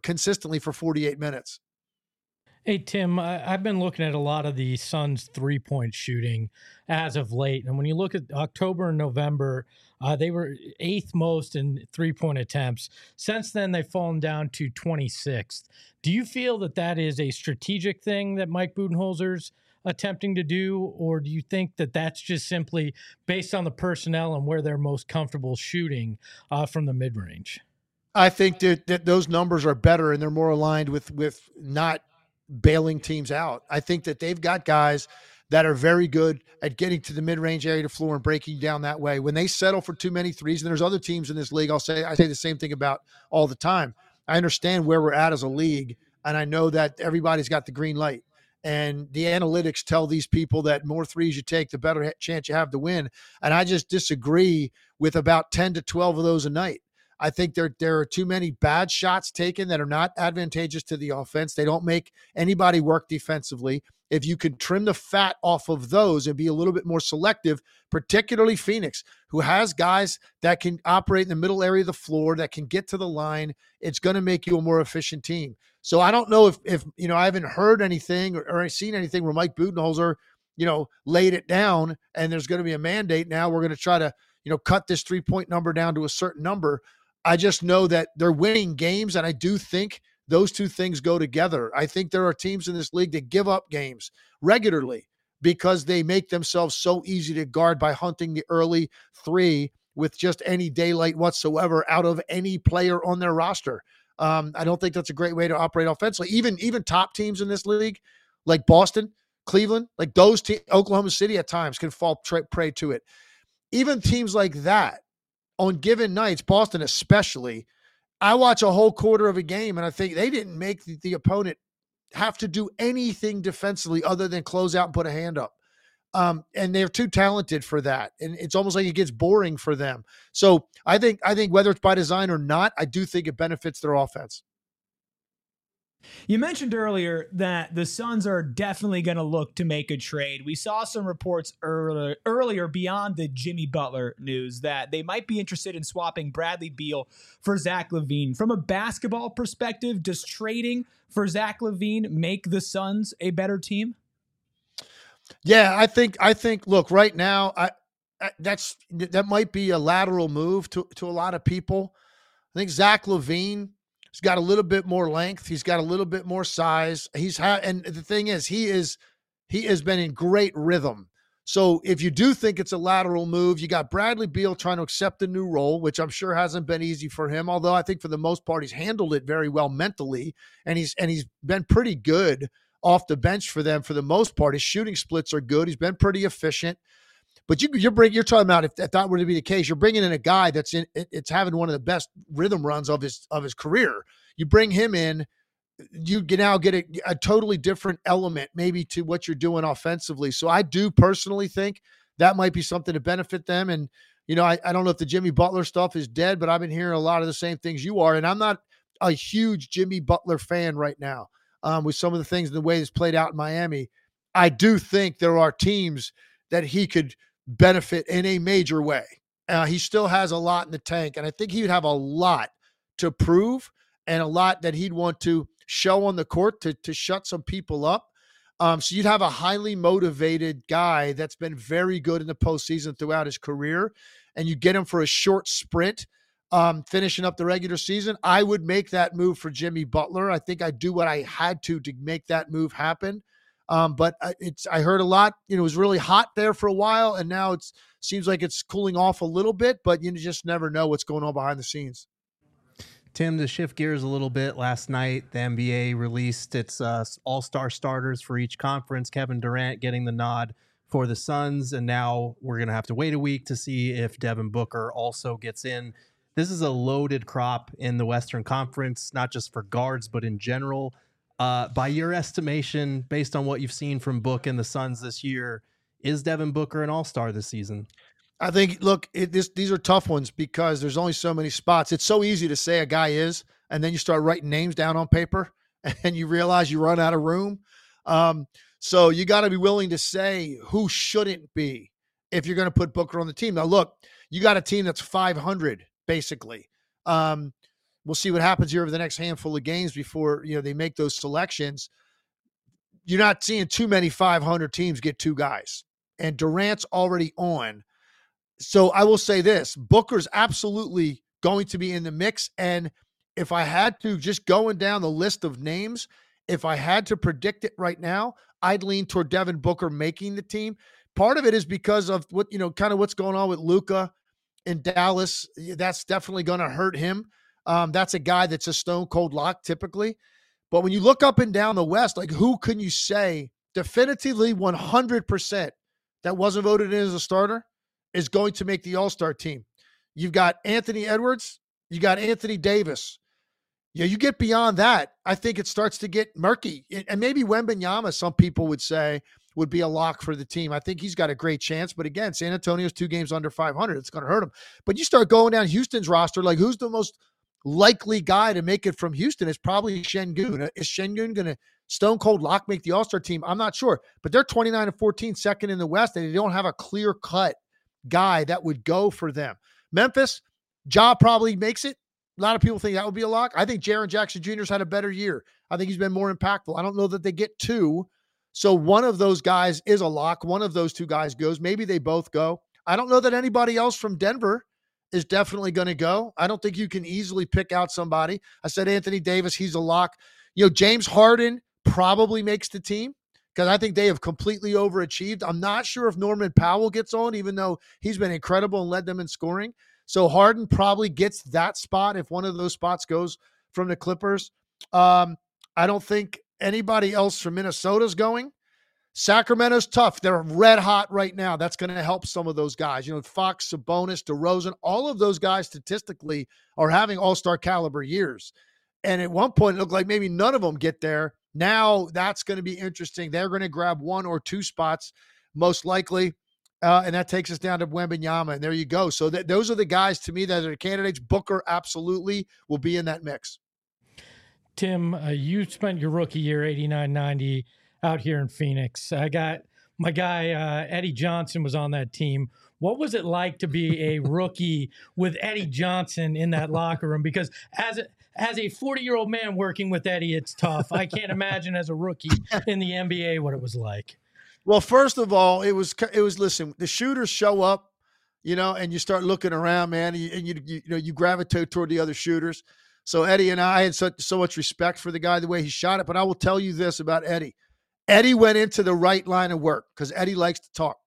for 48 minutes. Hey, Tim, I've been looking at a lot of the Suns' three-point shooting as of late. And when you look at October and November, they were 8th most in three-point attempts. Since then, they've fallen down to 26th. Do you feel that is a strategic thing that Mike Budenholzer's attempting to do, or do you think that that's just simply based on the personnel and where they're most comfortable shooting from the mid-range? I think that those numbers are better and they're more aligned with not bailing teams out. I think that they've got guys that are very good at getting to the mid-range area to floor and breaking down that way. When they settle for too many threes, and there's other teams in this league, I say the same thing about all the time. I understand where we're at as a league, and I know that everybody's got the green light. And the analytics tell these people that more threes you take, the better chance you have to win. And I just disagree with about 10 to 12 of those a night. I think there are too many bad shots taken that are not advantageous to the offense. They don't make anybody work defensively. If you can trim the fat off of those and be a little bit more selective, particularly Phoenix, who has guys that can operate in the middle area of the floor, that can get to the line, it's going to make you a more efficient team. So I don't know if I haven't heard anything or seen anything where Mike Budenholzer, laid it down and there's going to be a mandate. Now we're going to try to, cut this 3-point number down to a certain number. I just know that they're winning games, and I do think those two things go together. I think there are teams in this league that give up games regularly because they make themselves so easy to guard by hunting the early three with just any daylight whatsoever out of any player on their roster. I don't think that's a great way to operate offensively. Even top teams in this league, like Boston, Cleveland, like those teams, Oklahoma City at times can fall prey to it. Even teams like that, on given nights, Boston especially, I watch a whole quarter of a game and I think they didn't make the opponent have to do anything defensively other than close out and put a hand up. And they're too talented for that. And it's almost like it gets boring for them. So I think whether it's by design or not, I do think it benefits their offense. You mentioned earlier that the Suns are definitely going to look to make a trade. We saw some reports earlier beyond the Jimmy Butler news that they might be interested in swapping Bradley Beal for Zach LaVine. From a basketball perspective, does trading for Zach LaVine make the Suns a better team? Yeah, I think. Look, right now, that might be a lateral move to a lot of people. I think Zach LaVine, he's got a little bit more length. He's got a little bit more size. And the thing is, he has been in great rhythm. So if you do think it's a lateral move, you got Bradley Beal trying to accept a new role, which I'm sure hasn't been easy for him. Although I think for the most part, he's handled it very well mentally, and he's been pretty good off the bench for them for the most part. His shooting splits are good. He's been pretty efficient. But you're talking about if that were to be the case, you're bringing in a guy it's having one of the best rhythm runs of his career. You bring him in, you can now get a totally different element maybe to what you're doing offensively. So I do personally think that might be something to benefit them. And I don't know if the Jimmy Butler stuff is dead, but I've been hearing a lot of the same things you are, and I'm not a huge Jimmy Butler fan right now. With some of the things, the way it's played out in Miami, I do think there are teams that he could benefit in a major way. He still has a lot in the tank, and I think he would have a lot to prove and a lot that he'd want to show on the court to shut some people up. So you'd have a highly motivated guy that's been very good in the postseason throughout his career, and you get him for a short sprint, finishing up the regular season. I would make that move for Jimmy Butler. I think I'd do what I had to make that move happen. But I heard a lot, it was really hot there for a while, and now it seems like it's cooling off a little bit, but you just never know what's going on behind the scenes. Tim, to shift gears a little bit, last night the NBA released its all-star starters for each conference. Kevin Durant getting the nod for the Suns, and now we're going to have to wait a week to see if Devin Booker also gets in. This is a loaded crop in the Western Conference, not just for guards, but in general. By your estimation, based on what you've seen from Book and the Suns this year, is Devin Booker an all-star this season? I think, look, these are tough ones because there's only so many spots. It's so easy to say a guy is, and then you start writing names down on paper, and you realize you run out of room. So you got to be willing to say who shouldn't be if you're going to put Booker on the team. Now, look, you got a team that's 500, basically. We'll see what happens here over the next handful of games before they make those selections. You're not seeing too many 500 teams get two guys, and Durant's already on. So I will say this, Booker's absolutely going to be in the mix. And if I had to, just going down the list of names, if I had to predict it right now, I'd lean toward Devin Booker making the team. Part of it is because of what, kind of what's going on with Luka in Dallas. That's definitely going to hurt him. That's a guy that's a stone cold lock typically. But when you look up and down the West, like who can you say definitively 100% that wasn't voted in as a starter is going to make the All-Star team? You've got Anthony Edwards. You got Anthony Davis. Yeah, you get beyond that, I think it starts to get murky. And maybe Wembanyama, some people would say, would be a lock for the team. I think he's got a great chance. But again, San Antonio's 2 games under 500. It's going to hurt him. But you start going down Houston's roster, like who's the most likely guy to make it from Houston? It's probably Şengün. Is Şengün going to stone cold lock make the All-Star team? I'm not sure. But they're 29-14, second in the West, and they don't have a clear-cut guy that would go for them. Memphis, Ja probably makes it. A lot of people think that would be a lock. I think Jaren Jackson Jr.'s had a better year. I think he's been more impactful. I don't know that they get two. So one of those guys is a lock. One of those two guys goes. Maybe they both go. I don't know that anybody else from Denver is definitely going to go. I don't think you can easily pick out somebody. I said Anthony Davis, he's a lock. James Harden probably makes the team because I think they have completely overachieved. I'm not sure if Norman Powell gets on, even though he's been incredible and led them in scoring. So Harden probably gets that spot if one of those spots goes from the Clippers. I don't think anybody else from Minnesota's going. Sacramento's tough. They're red hot right now. That's going to help some of those guys. Fox, Sabonis, DeRozan, all of those guys statistically are having all-star caliber years. And at one point, it looked like maybe none of them get there. Now that's going to be interesting. They're going to grab 1 or 2 spots, most likely. And that takes us down to Wembanyama, and there you go. So those are the guys to me that are candidates. Booker absolutely will be in that mix. Tim, you spent your rookie year 89-90 out here in Phoenix. I got my guy Eddie Johnson was on that team. What was it like to be a rookie with Eddie Johnson in that locker room? Because as a 40-year-old man working with Eddie, it's tough. I can't imagine as a rookie in the NBA what it was like. Well, first of all, it was listen, the shooters show up, and you start looking around, man, and you gravitate toward the other shooters. So Eddie and I had so much respect for the guy, the way he shot it. But I will tell you this about Eddie. Eddie went into the right line of work because Eddie likes to talk.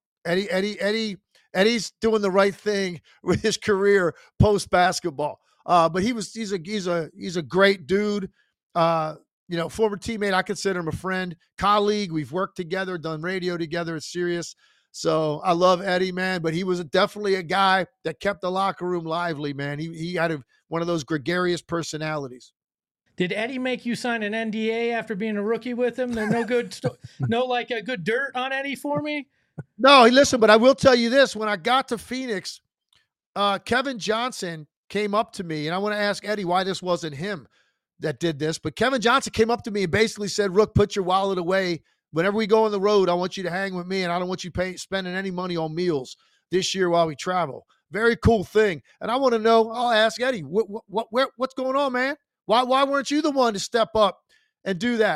Eddie's doing the right thing with his career post basketball. But he's a great dude. Former teammate. I consider him a friend, colleague. We've worked together, done radio together at Sirius. So I love Eddie, man. But he was definitely a guy that kept the locker room lively, man. He had one of those gregarious personalities. Did Eddie make you sign an NDA after being a rookie with him? There's no good, a good dirt on Eddie for me. No, listen, but I will tell you this: when I got to Phoenix, Kevin Johnson came up to me, and I want to ask Eddie why this wasn't him that did this. But Kevin Johnson came up to me and basically said, "Rook, put your wallet away. Whenever we go on the road, I want you to hang with me, and I don't want you spending any money on meals this year while we travel." Very cool thing. And I want to know, I'll ask Eddie, what's going on, man? Why weren't you the one to step up and do that?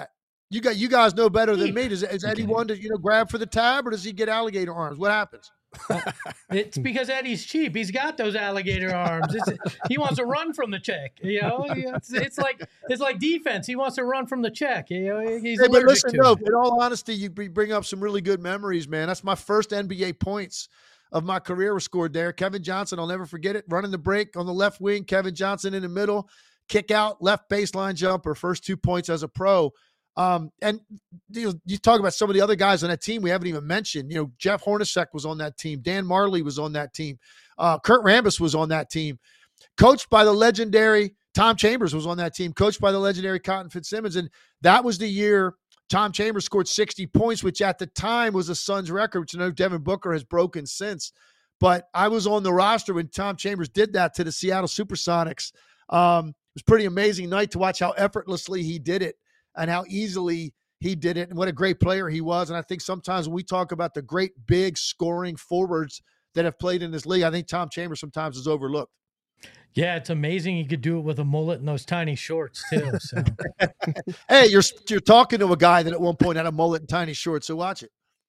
You guys know better than me. Is Okay. Eddie one to grab for the tab, or does he get alligator arms? What happens? It's because Eddie's cheap. He's got those alligator arms. He wants to run from the check. It's like defense. He wants to run from the check. He's Hey, but allergic listen, to no. it. In all honesty, you bring up some really good memories, man. That's my first NBA points of my career were scored there. Kevin Johnson, I'll never forget it. Running the break on the left wing, Kevin Johnson in the middle, kick out, left baseline jumper, first 2 points as a pro. And you talk about some of the other guys on that team we haven't even mentioned. Jeff Hornacek was on that team. Dan Marley was on that team. Kurt Rambis was on that team. Coached by the legendary Tom Chambers was on that team. Coached by the legendary Cotton Fitzsimmons. And that was the year Tom Chambers scored 60 points, which at the time was a Suns record, which I know Devin Booker has broken since. But I was on the roster when Tom Chambers did that to the Seattle Supersonics. It was a pretty amazing night to watch how effortlessly he did it and how easily he did it and what a great player he was. And I think sometimes when we talk about the great big scoring forwards that have played in this league, I think Tom Chambers sometimes is overlooked. Yeah, it's amazing he could do it with a mullet and those tiny shorts too. So. Hey, you're talking to a guy that at one point had a mullet and tiny shorts, so watch it.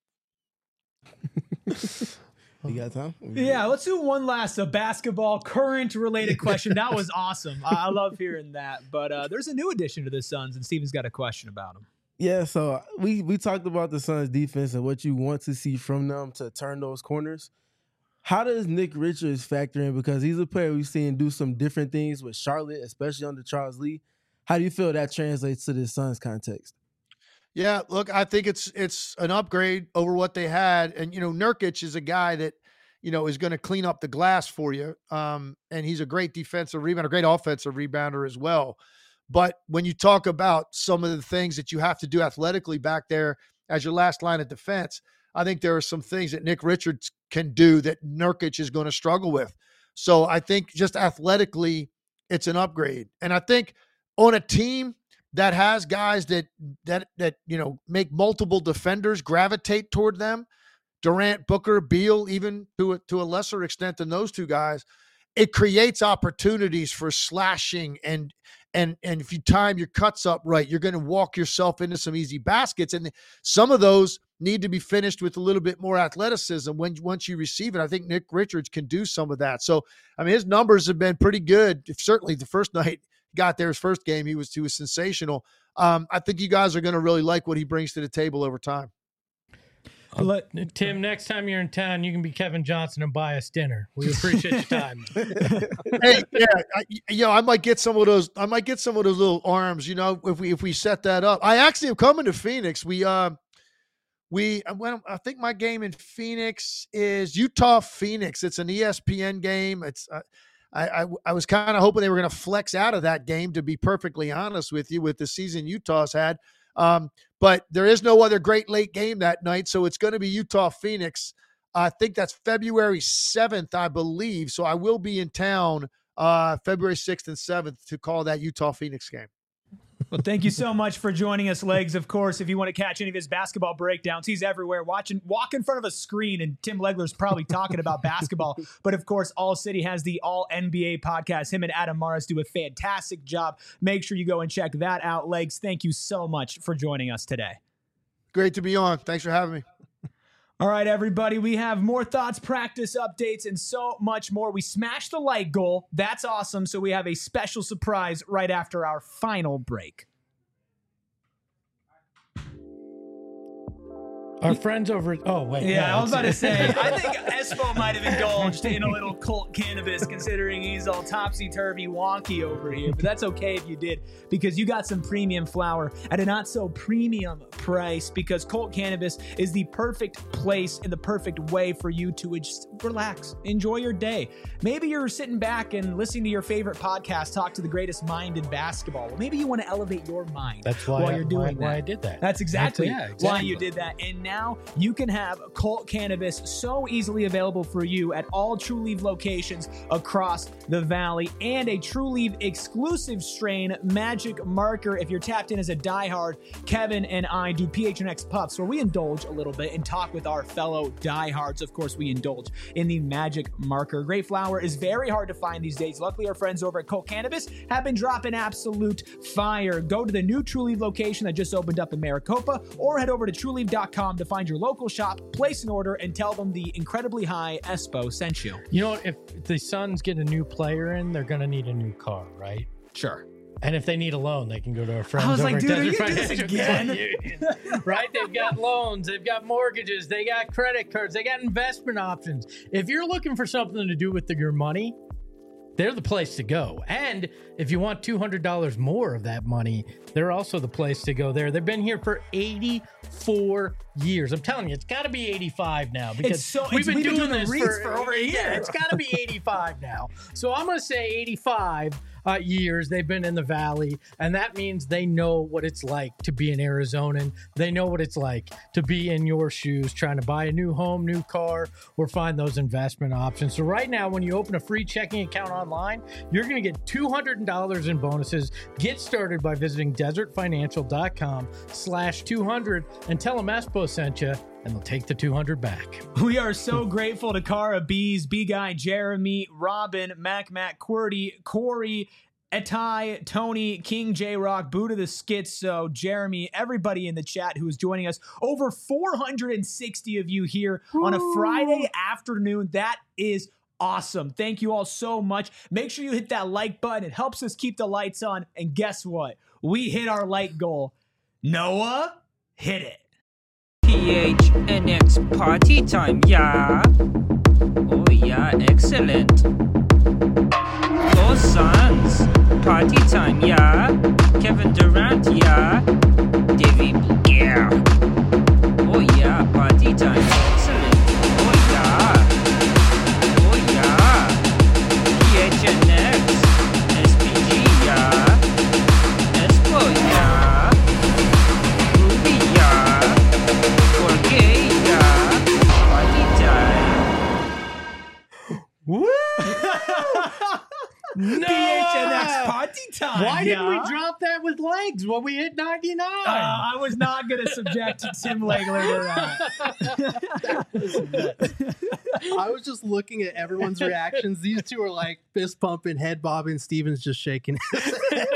You got time? Yeah, let's do one last basketball current related question. That was awesome. I love hearing that. But there's a new addition to the Suns, and Steven's got a question about him. Yeah, so we talked about the Suns defense and what you want to see from them to turn those corners. How does Nick Richards factor in? Because he's a player we've seen do some different things with Charlotte, especially under Charles Lee. How do you feel that translates to the Suns context? Yeah, look, I think it's an upgrade over what they had. And, Nurkic is a guy that, is going to clean up the glass for you. And he's a great defensive rebounder, a great offensive rebounder as well. But when you talk about some of the things that you have to do athletically back there as your last line of defense, I think there are some things that Nick Richards can do that Nurkic is going to struggle with. So I think just athletically, it's an upgrade. And I think on a team that has guys that make multiple defenders gravitate toward them, Durant, Booker, Beal, even to a lesser extent than those two guys, it creates opportunities for slashing and if you time your cuts up right, you're going to walk yourself into some easy baskets. And some of those need to be finished with a little bit more athleticism once you receive it. I think Nick Richards can do some of that. So, his numbers have been pretty good. Certainly the first night he got there, his first game, he was sensational. I think you guys are going to really like what he brings to the table over time. Tim, next time you're in town, you can be Kevin Johnson and buy us dinner. We appreciate your time. Hey, yeah, I might get some of those. I might get some of those little arms. If we set that up. I actually am coming to Phoenix. I think my game in Phoenix is Utah Phoenix. It's an ESPN game. It's I was kind of hoping they were going to flex out of that game, to be perfectly honest with you, with the season Utah's had. But there is no other great late game that night, so it's going to be Utah Phoenix. I think that's February 7th, I believe. So I will be in town February 6th and 7th to call that Utah Phoenix game. Well, thank you so much for joining us, Legs. Of course, if you want to catch any of his basketball breakdowns, he's everywhere. Walk in front of a screen, and Tim Legler's probably talking about basketball. But, of course, All City has the All NBA podcast. Him and Adam Morris do a fantastic job. Make sure you go and check that out. Legs, thank you so much for joining us today. Great to be on. Thanks for having me. All right, everybody, we have more thoughts, practice updates, and so much more. We smashed the light goal. That's awesome. So we have a special surprise right after our final break. Our friends over. Oh, wait. Yeah, no, I was about to say, I think Espo might have indulged in a little cult cannabis, considering he's all topsy-turvy wonky over here. But that's okay if you did, because you got some premium flower at a not-so-premium price, because Colt Cannabis is the perfect place and the perfect way for you to just relax, enjoy your day. Maybe you're sitting back and listening to your favorite podcast, Talk to the Greatest Mind in Basketball. Well, maybe you want to elevate your mind. That's why while you're doing why I did that. That's exactly exactly why you did that. And now you can have Colt Cannabis so easily available for you at all True Leaf locations across the valley, and a True Leaf exclusive strain, Magic Marker. If you're tapped in as a diehard, Kevin and I do PHNX Puffs, where we indulge a little bit and talk with our fellow diehards. Of course, we indulge in the Magic Marker. Great flower is very hard to find these days. Luckily, our friends over at Colt Cannabis have been dropping absolute fire. Go to the new True Leaf location that just opened up in Maricopa, or head over to trueleaf.com to find your local shop, place an order, and tell them the incredibly high Espo sent you. You know, if the Suns get a new player in, they're going to need a new car, right? Sure. And if they need a loan, they can go to our friends. I was over like, at dude, are Desert you doing this Financial again? Credit Union, right? They've got loans, they've got mortgages, they got credit cards, they got investment options. If you're looking for something to do with your money, they're the place to go. And if you want $200 more of that money, they're also the place to go there. They've been here for 84 years. I'm telling you, it's got to be 85 now, because we've been doing this for over a year. Yeah, it's got to be 85 now. So I'm going to say 85 years they've been in the Valley, and that means they know what it's like to be an Arizonan. They know what it's like to be in your shoes, trying to buy a new home, new car, or find those investment options. So right now, when you open a free checking account online, you're going to get $200 in bonuses. Get started by visiting desertfinancial.com/200 and tell them Espo sent you, and they'll take the 200 back. We are so grateful to Cara, Bees, B-Guy, Jeremy, Robin, Mac, QWERTY, Corey, Etai, Tony, King J-Rock, Buddha the Schizo, Jeremy, everybody in the chat who is joining us. Over 460 of you here on a Friday afternoon. That is awesome. Thank you all so much. Make sure you hit that like button. It helps us keep the lights on. And guess what? We hit our like goal. Noah, hit it. PHNX party time, yeah. Oh yeah, excellent. Go Suns, party time, yeah. Kevin Durant, yeah. David Bouguer. Oh yeah, party time, excellent. Oh yeah. Oh yeah. PHNX, SPG, yeah. Espo, yeah. Ruby, yeah. Woo! No! PHNX party time. Why didn't we drop that with legs when we hit 99? I was not going to subject Tim Legler to that. I was just looking at everyone's reactions. These two are like fist pumping, head bobbing. Steven's just shaking his head.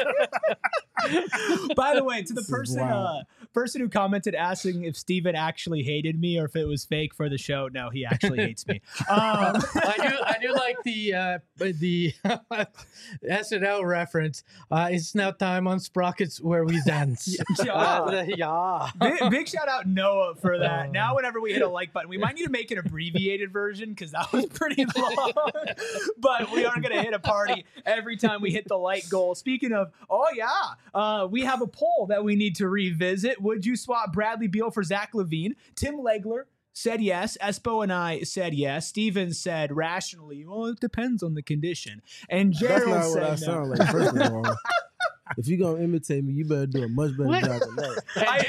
By the way, to the This is person wild. person who commented asking if Steven actually hated me or if it was fake for the show, no, he actually hates me. I do like the SNL reference. It's now time on Sprockets where we dance. Yeah. Big shout out Noah for that. Now whenever we hit a like button, we might need to make an abbreviated version because that was pretty long. But we aren't going to hit a party every time we hit the like goal. Speaking of, we have a poll that we need to revisit. Would you swap Bradley Beal for Zach LaVine? Tim Legler said yes. Espo and I said yes. Steven said rationally, well, it depends on the condition. And That's Gerald not what said I no. sound like. First of all, if you're gonna imitate me, you better do a much better job than that.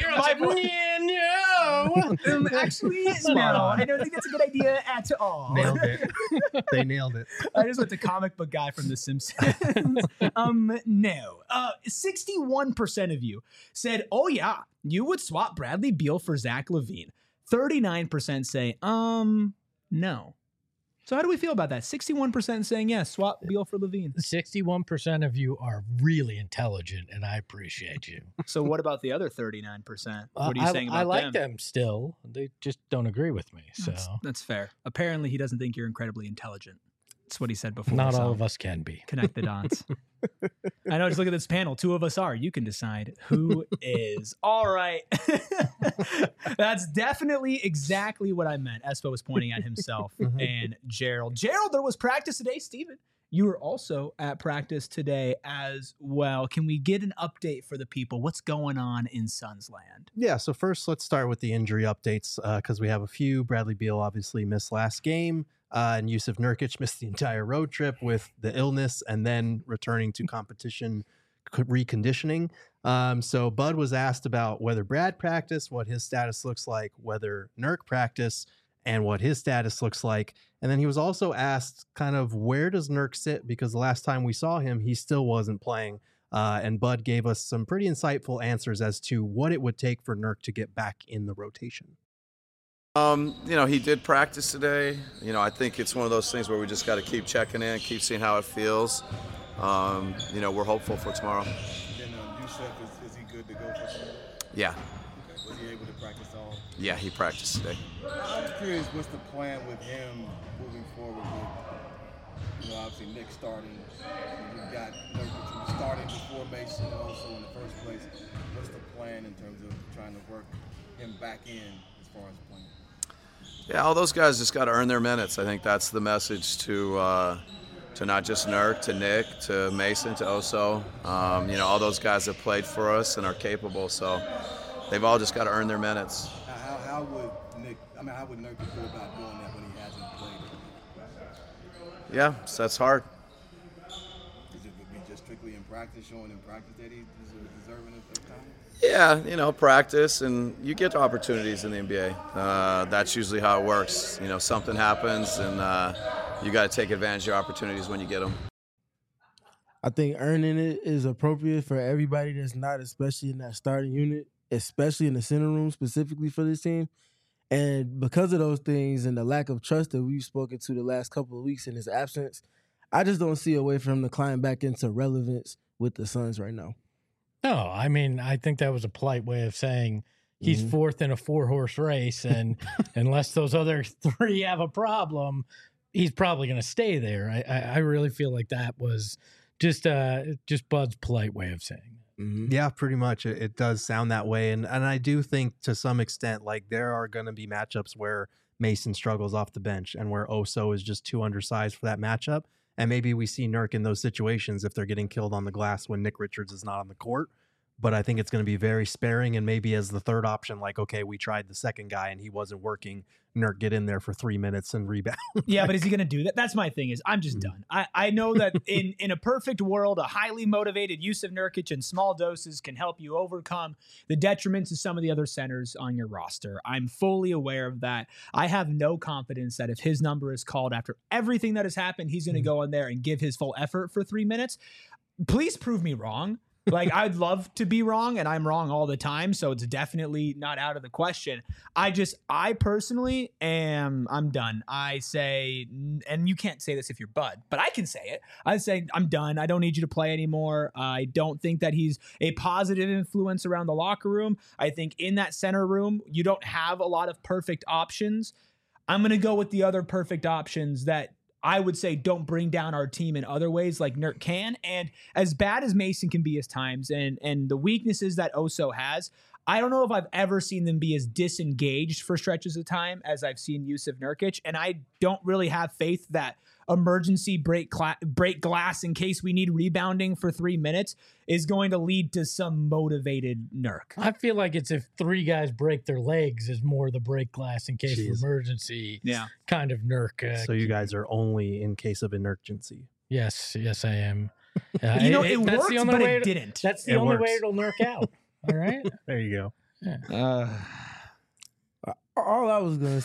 Actually, no. I don't think that's a good idea at all. Nailed it. They nailed it. I just went to comic book guy from The Simpsons. No. 61% of you said, oh yeah, you would swap Bradley Beal for Zach LaVine. 39% say, no. So how do we feel about that? 61% saying yes, swap Beal for LaVine. 61% of you are really intelligent, and I appreciate you. So what about the other 39%? What are you saying about I like them? them still. They just don't agree with me. So That's fair. Apparently, he doesn't think you're incredibly intelligent. That's what he said before. not so all of us can be. connect the dots. I know. Just look at this panel. 2 of us are. You can decide who is. All right. That's definitely exactly what I meant. Espo was pointing at himself and Gerald. Gerald, there was practice today. Steven, you were also at practice today as well. Can we get an update for the people? What's going on in Suns land? Yeah, so first let's start with the injury updates because we have a few. Bradley Beal obviously missed last game. And Yusuf Nurkic missed the entire road trip with the illness and then returning to competition reconditioning. So Bud was asked about whether Brad practiced, what his status looks like, whether Nurk practiced, and what his status looks like. And then he was also asked kind of where does Nurk sit, because the last time we saw him, he still wasn't playing. And Bud gave us some pretty insightful answers as to what it would take for Nurk to get back in the rotation. He did practice today. I think it's one of those things where we just got to keep checking in, keep seeing how it feels. We're hopeful for tomorrow. And Yusuf, is he good to go for tomorrow? Yeah. Okay. Was he able to practice all? Yeah, he practiced today. I'm curious, what's the plan with him moving forward with, obviously Nick starting. You've got Nurkic starting before Mason and also in the first place. What's the plan in terms of trying to work him back in as far as playing? Yeah, all those guys just got to earn their minutes. I think that's the message to not just Nurk, to Nick, to Mason, to Oso. All those guys have played for us and are capable, so they've all just got to earn their minutes. How would Nurk go about doing that when he hasn't played? Yeah, so that's hard. Is it would be just strictly in practice, showing in practice that he's deserving of time? Yeah, practice, and you get opportunities in the NBA. That's usually how it works. Something happens, and you got to take advantage of your opportunities when you get them. I think earning it is appropriate for everybody that's not, especially in that starting unit, especially in the center room specifically for this team. And because of those things and the lack of trust that we've spoken to the last couple of weeks in his absence, I just don't see a way for him to climb back into relevance with the Suns right now. No, I mean, I think that was a polite way of saying he's fourth in a 4-horse race, and unless those other 3 have a problem, he's probably going to stay there. I really feel like that was just Bud's polite way of saying it. Yeah, pretty much. It does sound that way. And I do think to some extent, like there are going to be matchups where Mason struggles off the bench and where Oso is just too undersized for that matchup. And maybe we see Nurk in those situations if they're getting killed on the glass when Nick Richards is not on the court. But I think it's going to be very sparing, and maybe as the third option, like, okay, we tried the second guy and he wasn't working, Nurk get in there for 3 minutes and rebound. Yeah, but is he going to do that? That's my thing is I'm just done. I know that in a perfect world, a highly motivated Yusuf Nurkic in small doses can help you overcome the detriments of some of the other centers on your roster. I'm fully aware of that. I have no confidence that if his number is called after everything that has happened, he's going to go in there and give his full effort for 3 minutes. Please prove me wrong. Like, I'd love to be wrong, and I'm wrong all the time, so it's definitely not out of the question. I personally I'm done. I say, and you can't say this if you're Bud, but I can say it. I say, I'm done. I don't need you to play anymore. I don't think that he's a positive influence around the locker room. I think in that center room, you don't have a lot of perfect options. I'm going to go with the other perfect options that I would say don't bring down our team in other ways like Nurk can. And as bad as Mason can be at times and the weaknesses that Oso has, I don't know if I've ever seen them be as disengaged for stretches of time as I've seen Yusuf Nurkic. And I don't really have faith that emergency break glass in case we need rebounding for 3 minutes is going to lead to some motivated Nurk. I feel like it's if 3 guys break their legs is more the break glass in case of emergency kind of Nurk. So you guys are only in case of emergency. Yes, I am. It worked, but it didn't. That's the only way it'll Nurk out. All right? There you go. Yeah. All I was going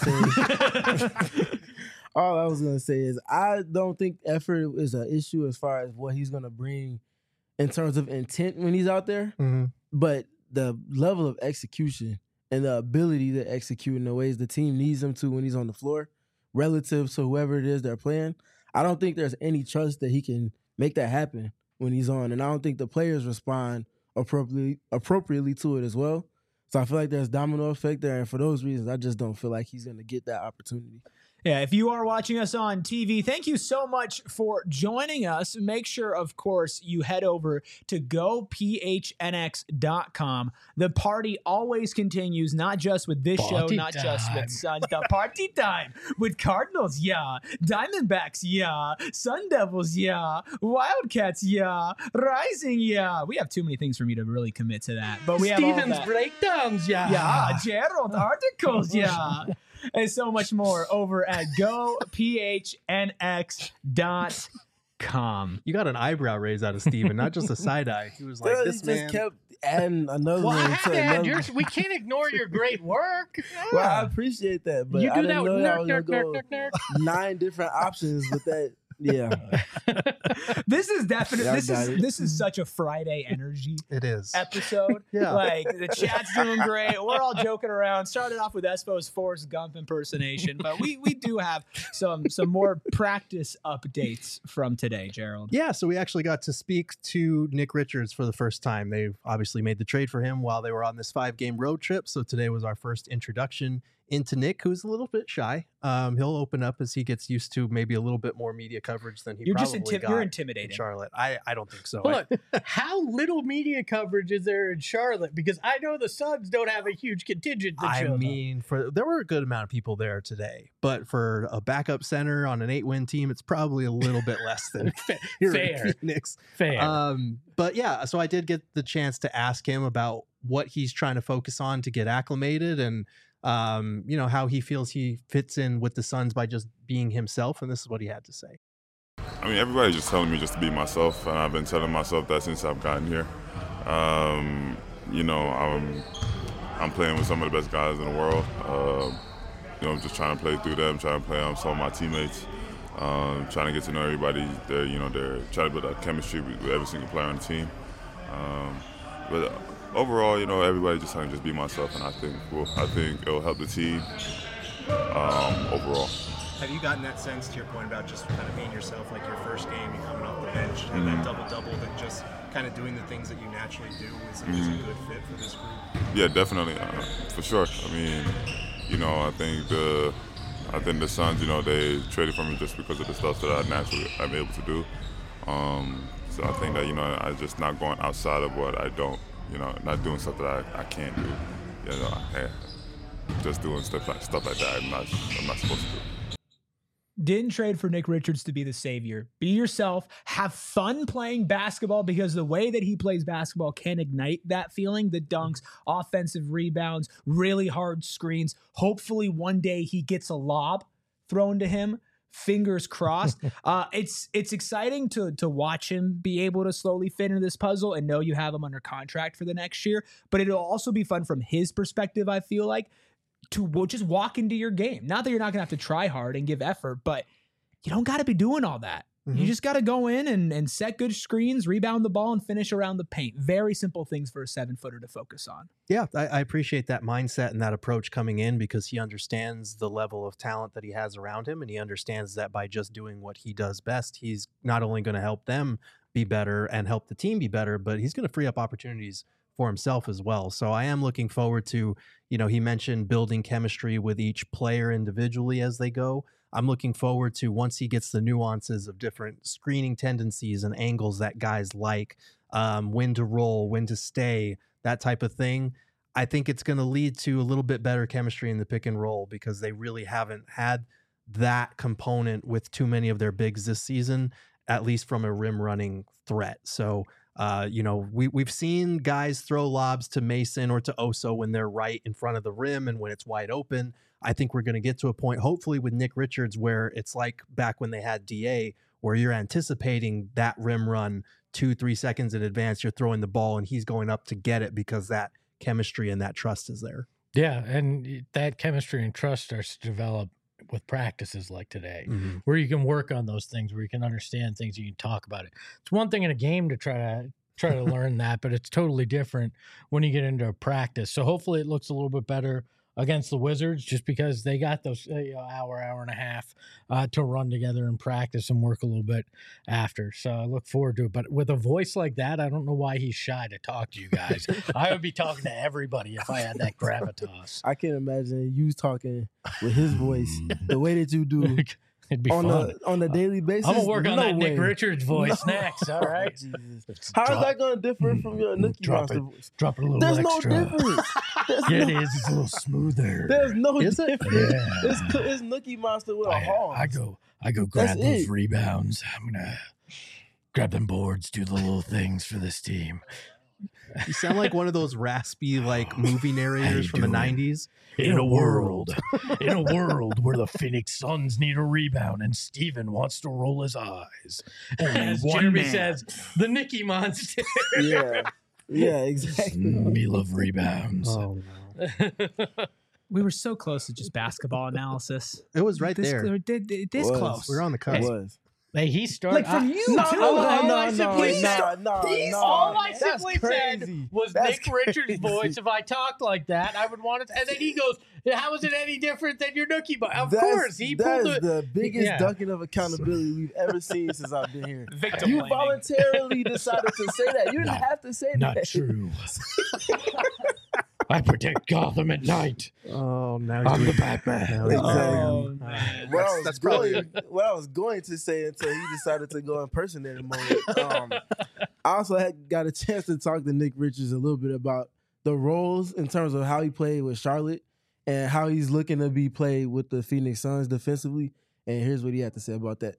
to say is I don't think effort is an issue as far as what he's going to bring in terms of intent when he's out there. But the level of execution and the ability to execute in the ways the team needs him to when he's on the floor relative to whoever it is they're playing, I don't think there's any trust that he can make that happen when he's on. And I don't think the players respond appropriately to it as well. So I feel like there's domino effect there. And for those reasons, I just don't feel like he's going to get that opportunity. Yeah, if you are watching us on TV, thank you so much for joining us. Make sure, of course, you head over to gophnx.com. The party always continues, not just with this show, not just with Sun. The party time with Cardinals, yeah. Diamondbacks, yeah. Sun Devils, yeah. Wildcats, yeah. Rising, yeah. We have too many things for me to really commit to that. But we have all Stevens that. breakdowns, yeah. Yeah, Gerald articles, yeah. And so much more over at gophnx.com. calm. You got an eyebrow raise out of Steven, not just a side eye. He was like, He this just man. kept adding another Well, I one had to to add another. we can't ignore your great work. Well, I appreciate that, but you I do didn't that know with that I was nerk, gonna nerk, go nerk, nerk, 9 different options with that. Yeah, This is definitely Yeah, I got it. this is such a Friday energy It is. episode. Yeah. Like the chat's doing great. We're all joking around. Started off with Espo's Forrest Gump impersonation, but we do have some more practice updates from today, Gerald. Yeah, so we actually got to speak to Nick Richards for the first time. They've obviously made the trade for him while they were on this 5-game road trip. So today was our first introduction into Nick, who's a little bit shy. He'll open up as he gets used to maybe a little bit more media coverage than he You're probably just got you're in intimidating. Charlotte. I don't think so. Look, how little media coverage is there in Charlotte? Because I know the Suns don't have a huge contingent that I shows up. mean, there were a good amount of people there today, but for a backup center on an 8-win team, it's probably a little bit less than here in Fair. Phoenix. Fair. But yeah, so I did get the chance to ask him about what he's trying to focus on to get acclimated and how he feels he fits in with the Suns by just being himself. And this is what he had to say. I mean, everybody's just telling me just to be myself, and I've been telling myself that since I've gotten here. I'm playing with some of the best guys in the world. I'm just trying to play through them, trying to play on some of my teammates, trying to get to know everybody. They're trying to build a chemistry with every single player on the team. But overall, everybody just trying to just be myself, and I think it'll help the team overall. Have you gotten that sense, to your point about just kind of being yourself, like your first game, you coming off the bench, and that double-double, that just kind of doing the things that you naturally do is a good fit for this group? Yeah, definitely, for sure. I mean, I think the Suns, they traded for me just because of the stuff that I naturally am able to do. So I think that, I'm just not going outside of what I don't, not doing stuff that I can't do. Just doing stuff like that I'm not supposed to do. Didn't trade for Nick Richards to be the savior. Be yourself. Have fun playing basketball, because the way that he plays basketball can ignite that feeling. The dunks, offensive rebounds, really hard screens. Hopefully one day he gets a lob thrown to him. Fingers crossed. It's exciting to watch him be able to slowly fit into this puzzle and know you have him under contract for the next year. But it'll also be fun from his perspective, I feel like, to just walk into your game. Not that you're not going to have to try hard and give effort, but you don't got to be doing all that. You just got to go in and set good screens, rebound the ball, and finish around the paint. Very simple things for a 7-footer to focus on. Yeah, I appreciate that mindset and that approach coming in, because he understands the level of talent that he has around him, and he understands that by just doing what he does best, he's not only going to help them be better and help the team be better, but he's going to free up opportunities for himself as well. So I am looking forward to, he mentioned building chemistry with each player individually as they go. I'm looking forward to, once he gets the nuances of different screening tendencies and angles that guys like, when to roll, when to stay, that type of thing. I think it's going to lead to a little bit better chemistry in the pick and roll, because they really haven't had that component with too many of their bigs this season, at least from a rim running threat. So, we've seen guys throw lobs to Mason or to Oso when they're right in front of the rim and when it's wide open. I think we're going to get to a point, hopefully with Nick Richards, where it's like back when they had DA, where you're anticipating that rim run 2-3 seconds in advance. You're throwing the ball and he's going up to get it, because that chemistry and that trust is there. Yeah, and that chemistry and trust starts to develop with practices like today, where you can work on those things, where you can understand things, you can talk about it. It's one thing in a game to try to learn that, but it's totally different when you get into a practice. So hopefully it looks a little bit better against the Wizards, just because they got those hour and a half to run together and practice and work a little bit after. So I look forward to it. But with a voice like that, I don't know why he's shy to talk to you guys. I would be talking to everybody if I had that gravitas. I can imagine you talking with his voice the way that you do. It'd be fun. On a daily basis. I'm going to work on that way. Nick Richards voice next, all right? Jesus. How is that going to differ from your Nookie Monster voice? Drop it a little There's extra. no difference. Yeah, it is. It's a little smoother. There's no Is it? difference. Yeah. It's Nookie Monster with a horn. I go grab That's those it. rebounds. I'm going to grab them boards, do the little things for this team. You sound like one of those raspy like movie narrators from the 90s. In a world where the Phoenix Suns need a rebound and Steven wants to roll his eyes. As Jeremy says, the Nicky Monster. Yeah, exactly. We love rebounds. Oh no. We were so close to just basketball analysis. It was right there. This close. We were on the cusp. It was. Hey, he started Like from you, No, too. no, Like, no, I no, simply said- no. All I That's simply said crazy. was That's Nick Richards' crazy. voice. If I talked like that, I would want it. And then he goes, "How is it any different than your Nookie Boy?" Of course, he that pulled is it. the biggest Yeah. dunking of accountability we've ever seen since I've been here. Victim You blaming. voluntarily decided to say that. You didn't Not- have to say Not that. true. I protect Gotham at night. Oh, now I'm he's the Batman. now he's Oh, doing- man. That's probably What I was going to say until he decided to go impersonator mode. I also got a chance to talk to Nick Richards a little bit about the roles in terms of how he played with Charlotte and how he's looking to be played with the Phoenix Suns defensively. And here's what he had to say about that.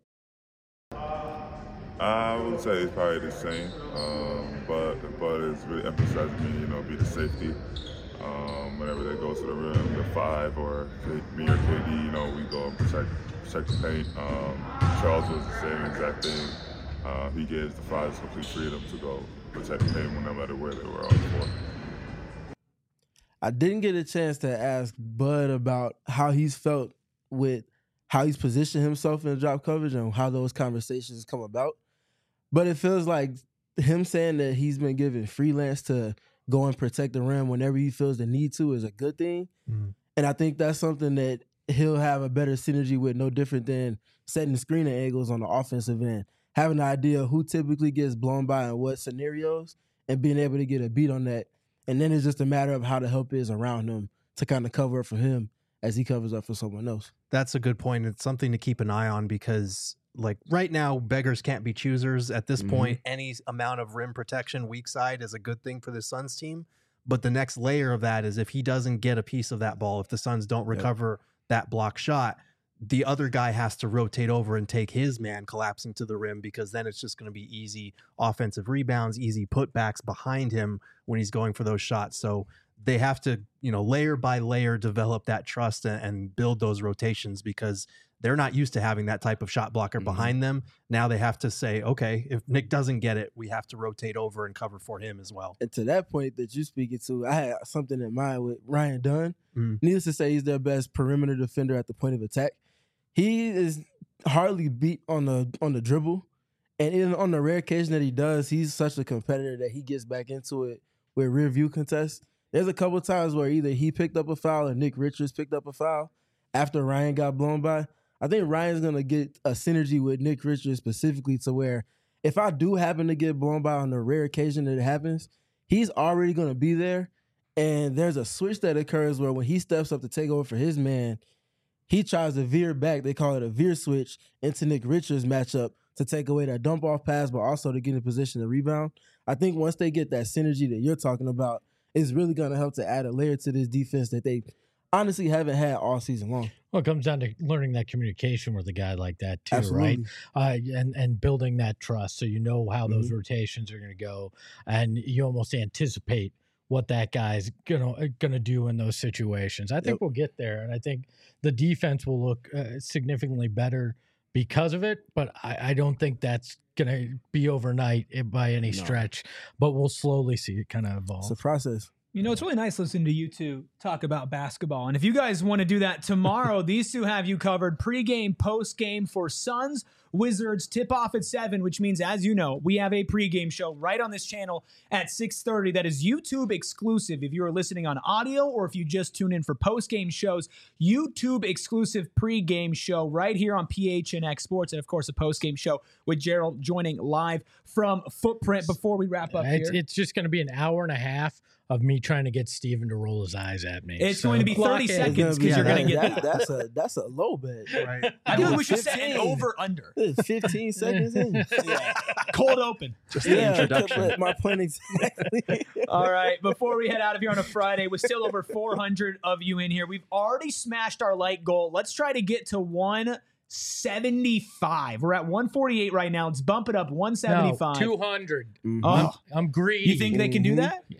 I would say it's probably the same, but it's really emphasizing me, be the safety. Whenever they go to the rim, the 5 or me or KD, we go and protect the paint. Charles was the same exact thing. He gives the 5s complete freedom to go protect the paint no matter where they were on the floor. I didn't get a chance to ask Bud about how he's felt with how he's positioned himself in drop coverage and how those conversations come about. But it feels like him saying that he's been given freelance to go and protect the rim whenever he feels the need to is a good thing. Mhm. And I think that's something that he'll have a better synergy with, no different than setting screening angles on the offensive end. Having an idea of who typically gets blown by in what scenarios and being able to get a beat on that. And then it's just a matter of how the help is around him to kind of cover up for him as he covers up for someone else. That's a good point. It's something to keep an eye on because, like, right now, beggars can't be choosers. At this point, any amount of rim protection weak side is a good thing for the Suns team. But the next layer of that is if he doesn't get a piece of that ball, if the Suns don't recover that block shot, the other guy has to rotate over and take his man collapsing to the rim, because then it's just going to be easy offensive rebounds, easy putbacks behind him when he's going for those shots. So they have to, layer by layer, develop that trust and build those rotations, because they're not used to having that type of shot blocker behind them. Now they have to say, okay, if Nick doesn't get it, we have to rotate over and cover for him as well. And to that point that you're speaking to, I had something in mind with Ryan Dunn. Mhm. Needless to say, he's their best perimeter defender at the point of attack. He is hardly beat on the dribble. And even on the rare occasion that he does, he's such a competitor that he gets back into it with rear view contests. There's a couple times where either he picked up a foul or Nick Richards picked up a foul after Ryan got blown by. I think Ryan's going to get a synergy with Nick Richards specifically to where if I do happen to get blown by on the rare occasion that it happens, he's already going to be there. And there's a switch that occurs where when he steps up to take over for his man, he tries to veer back. They call it a veer switch into Nick Richards' matchup to take away that dump off pass, but also to get in position to rebound. I think once they get that synergy that you're talking about, it's really going to help to add a layer to this defense that they honestly haven't had all season long. Well, it comes down to learning that communication with a guy like that too, Absolutely. right? And building that trust, so you know how those rotations are going to go, and you almost anticipate what that guy's gonna do in those situations. I think we'll get there, and I think the defense will look significantly better because of it. But I don't think that's gonna be overnight by any stretch. But we'll slowly see it kind of evolve. It's a process. It's really nice listening to you two talk about basketball. And if you guys want to do that tomorrow, these two have you covered pregame, postgame for Suns Wizards tip-off at 7, which means, as you know, we have a pregame show right on this channel at 6:30 that is YouTube exclusive. If you are listening on audio or if you just tune in for postgame shows, YouTube exclusive pregame show right here on PHNX Sports, and of course a postgame show with Gerald joining live from Footprint. Before we wrap up here, It's just going to be an hour and a half of me trying to get Steven to roll his eyes at me. It's going to be 30 block it. seconds because you're going to get that. That's a low bet. Right. I feel like we should set 15. an over-under. 15 seconds in. Cold open. Just the introduction. My point exactly. All right, before we head out of here on a Friday, with still over 400 of you in here, we've already smashed our like goal. Let's try to get to 1 175. We're at 148 right now. Let's bump it up 175. 200. Oh, I'm greedy. you think they can do that? Yeah.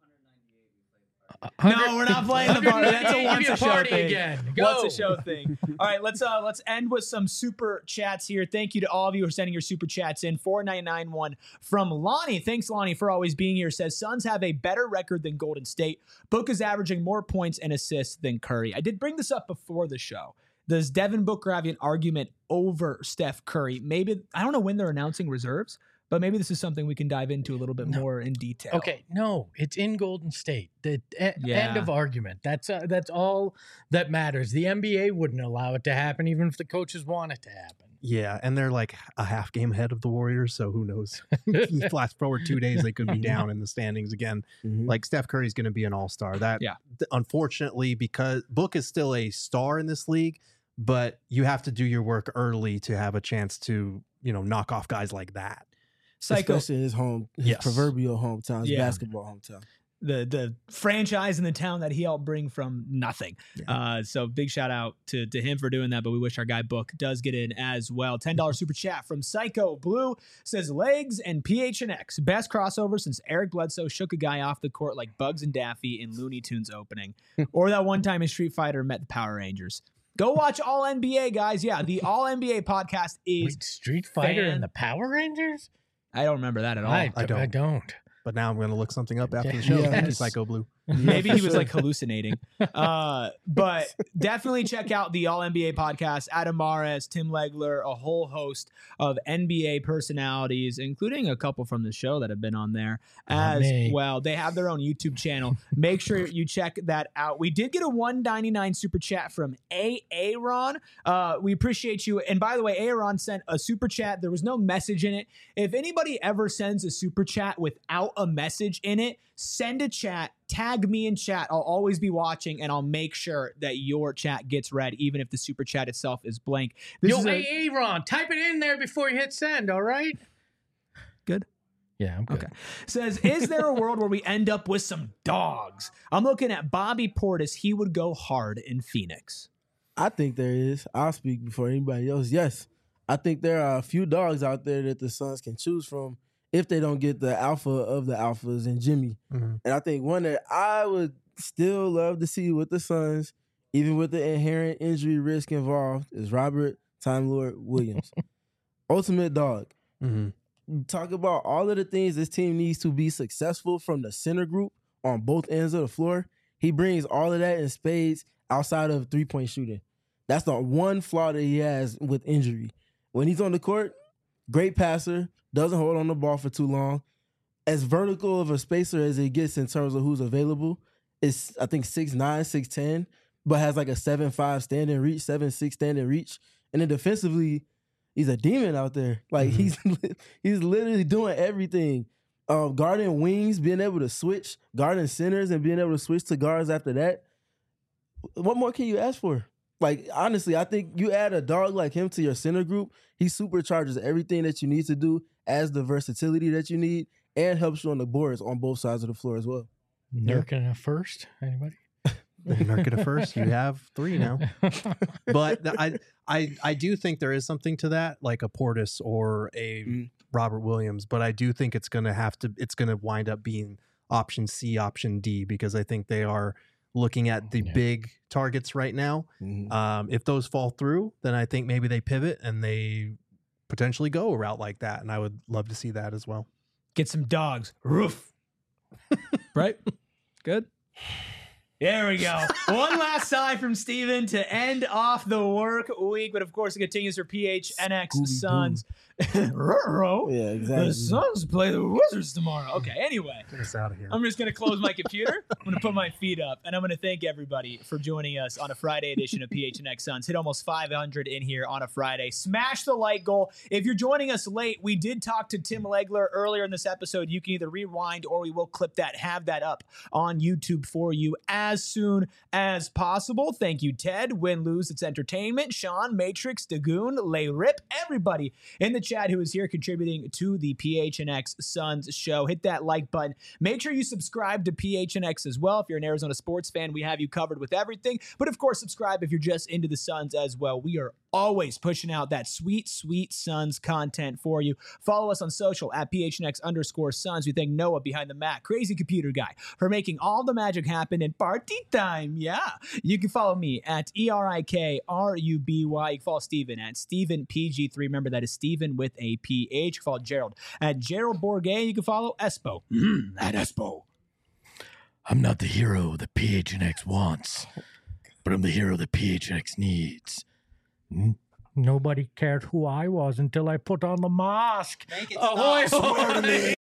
No, we're not playing the party. That's a once a show party thing. again. Go. Once a show thing. All right, let's end with some super chats here. Thank you to all of you who are sending your super chats in. 4991 from Lonnie. Thanks, Lonnie, for always being here. Says Suns have a better record than Golden State. Book is averaging more points and assists than Curry. I did bring this up before the show. Does Devin Booker have an argument over Steph Curry? Maybe, I don't know when they're announcing reserves, but maybe this is something we can dive into a little bit more in detail. Okay, no, it's in Golden State. The end of argument. That's all that matters. The NBA wouldn't allow it to happen, even if the coaches want it to happen. Yeah, and they're like a half game ahead of the Warriors, so who knows? Flash forward 2 days, they could be down in the standings again. Like Steph Curry's going to be an all-star. Unfortunately, because Book is still a star in this league, but you have to do your work early to have a chance to, knock off guys like that. Psycho. Especially in his proverbial hometown, his basketball hometown. The franchise in the town that he helped bring from nothing. Yeah. So big shout out to him for doing that, but we wish our guy Book does get in as well. $10 super chat from Psycho Blue says Legs and PHNX. Best crossover since Eric Bledsoe shook a guy off the court like Bugs and Daffy in Looney Tunes opening. Or that one time in Street Fighter met the Power Rangers. Go watch All NBA, guys. Yeah, the All NBA podcast is Street Fighter and the Power Rangers? I don't remember that at all. I don't. But now I'm going to look something up after the show. Thank you, Psycho Blue. Maybe he was like hallucinating. But definitely check out the All NBA podcast. Adam Mares, Tim Legler, a whole host of NBA personalities, including a couple from the show that have been on there as well. They have their own YouTube channel. Make sure you check that out. We did get a $1.99 super chat from Aaron. We appreciate you. And by the way, Aaron sent a super chat. There was no message in it. If anybody ever sends a super chat without a message in it, send a chat, tag me in chat. I'll always be watching, and I'll make sure that your chat gets read, even if the super chat itself is blank. Hey, Aaron, type it in there before you hit send, all right? Good? Yeah, I'm good. Okay. Says, is there a world where we end up with some dogs? I'm looking at Bobby Portis. He would go hard in Phoenix. I think there is. I'll speak before anybody else. Yes. I think there are a few dogs out there that the Suns can choose from if they don't get the alpha of the alphas in Jimmy. And I think one that I would still love to see with the Suns, even with the inherent injury risk involved, is Robert Time Lord Williams. Ultimate dog. Talk about all of the things this team needs to be successful from the center group on both ends of the floor. He brings all of that in spades outside of three-point shooting. That's the one flaw that he has with injury. When he's on the court, great passer, doesn't hold on the ball for too long. As vertical of a spacer as it gets in terms of who's available, is I think 6'9", 6'10", but has like a 7'5" standing reach, 7'6" standing reach. And then defensively, he's a demon out there. Like he's literally doing everything. Guarding wings, being able to switch, guarding centers, and being able to switch to guards after that. What more can you ask for? Like, honestly, I think you add a dog like him to your center group, he supercharges everything that you need to do, as the versatility that you need, and helps you on the boards on both sides of the floor as well. Nurkic a first? Anybody? Nurkic a first. You have 3 now. But I do think there is something to that, like a Portis or a Robert Williams. But I do think it's going to wind up being option C, option D, because I think they are looking at the big targets right now. If those fall through, then I think maybe they pivot and they potentially go a route like that. And I would love to see that as well. Get some dogs. Roof. Right? Good. There we go. One last sigh from Steven to end off the work week. But of course, it continues for PHNX Suns. Yeah, exactly. The Suns play the Wizards tomorrow. Okay, anyway. Get us out of here. I'm just going to close my computer. I'm going to put my feet up. And I'm going to thank everybody for joining us on a Friday edition of PHNX Suns. Hit almost 500 in here on a Friday. Smash the like goal. If you're joining us late, we did talk to Tim Legler earlier in this episode. You can either rewind or we will clip that, have that up on YouTube for you as soon as possible. Thank you, Ted. Win, lose, it's entertainment. Sean, Matrix, Dagoon, Lay Rip, everybody in the chat who is here contributing to the PHNX Suns show. Hit that like button. Make sure you subscribe to PHNX as well. If you're an Arizona sports fan, we have you covered with everything. But of course, subscribe if you're just into the Suns as well. We are always pushing out that sweet, sweet Suns content for you. Follow us on social at PHNX_Suns. We thank Noah behind the Mac, crazy computer guy, for making all the magic happen in party time. Yeah. You can follow me at ERIKRUBY. You can follow Steven at StevenPG3. Remember, that is Steven with a PH. You can follow Gerald at Gerald Bourget. You can follow Espo at Espo. I'm not the hero that PHNX wants, but I'm the hero that PHNX needs. Nobody cared who I was until I put on the mask. Make it Ahoy, stop. hoy!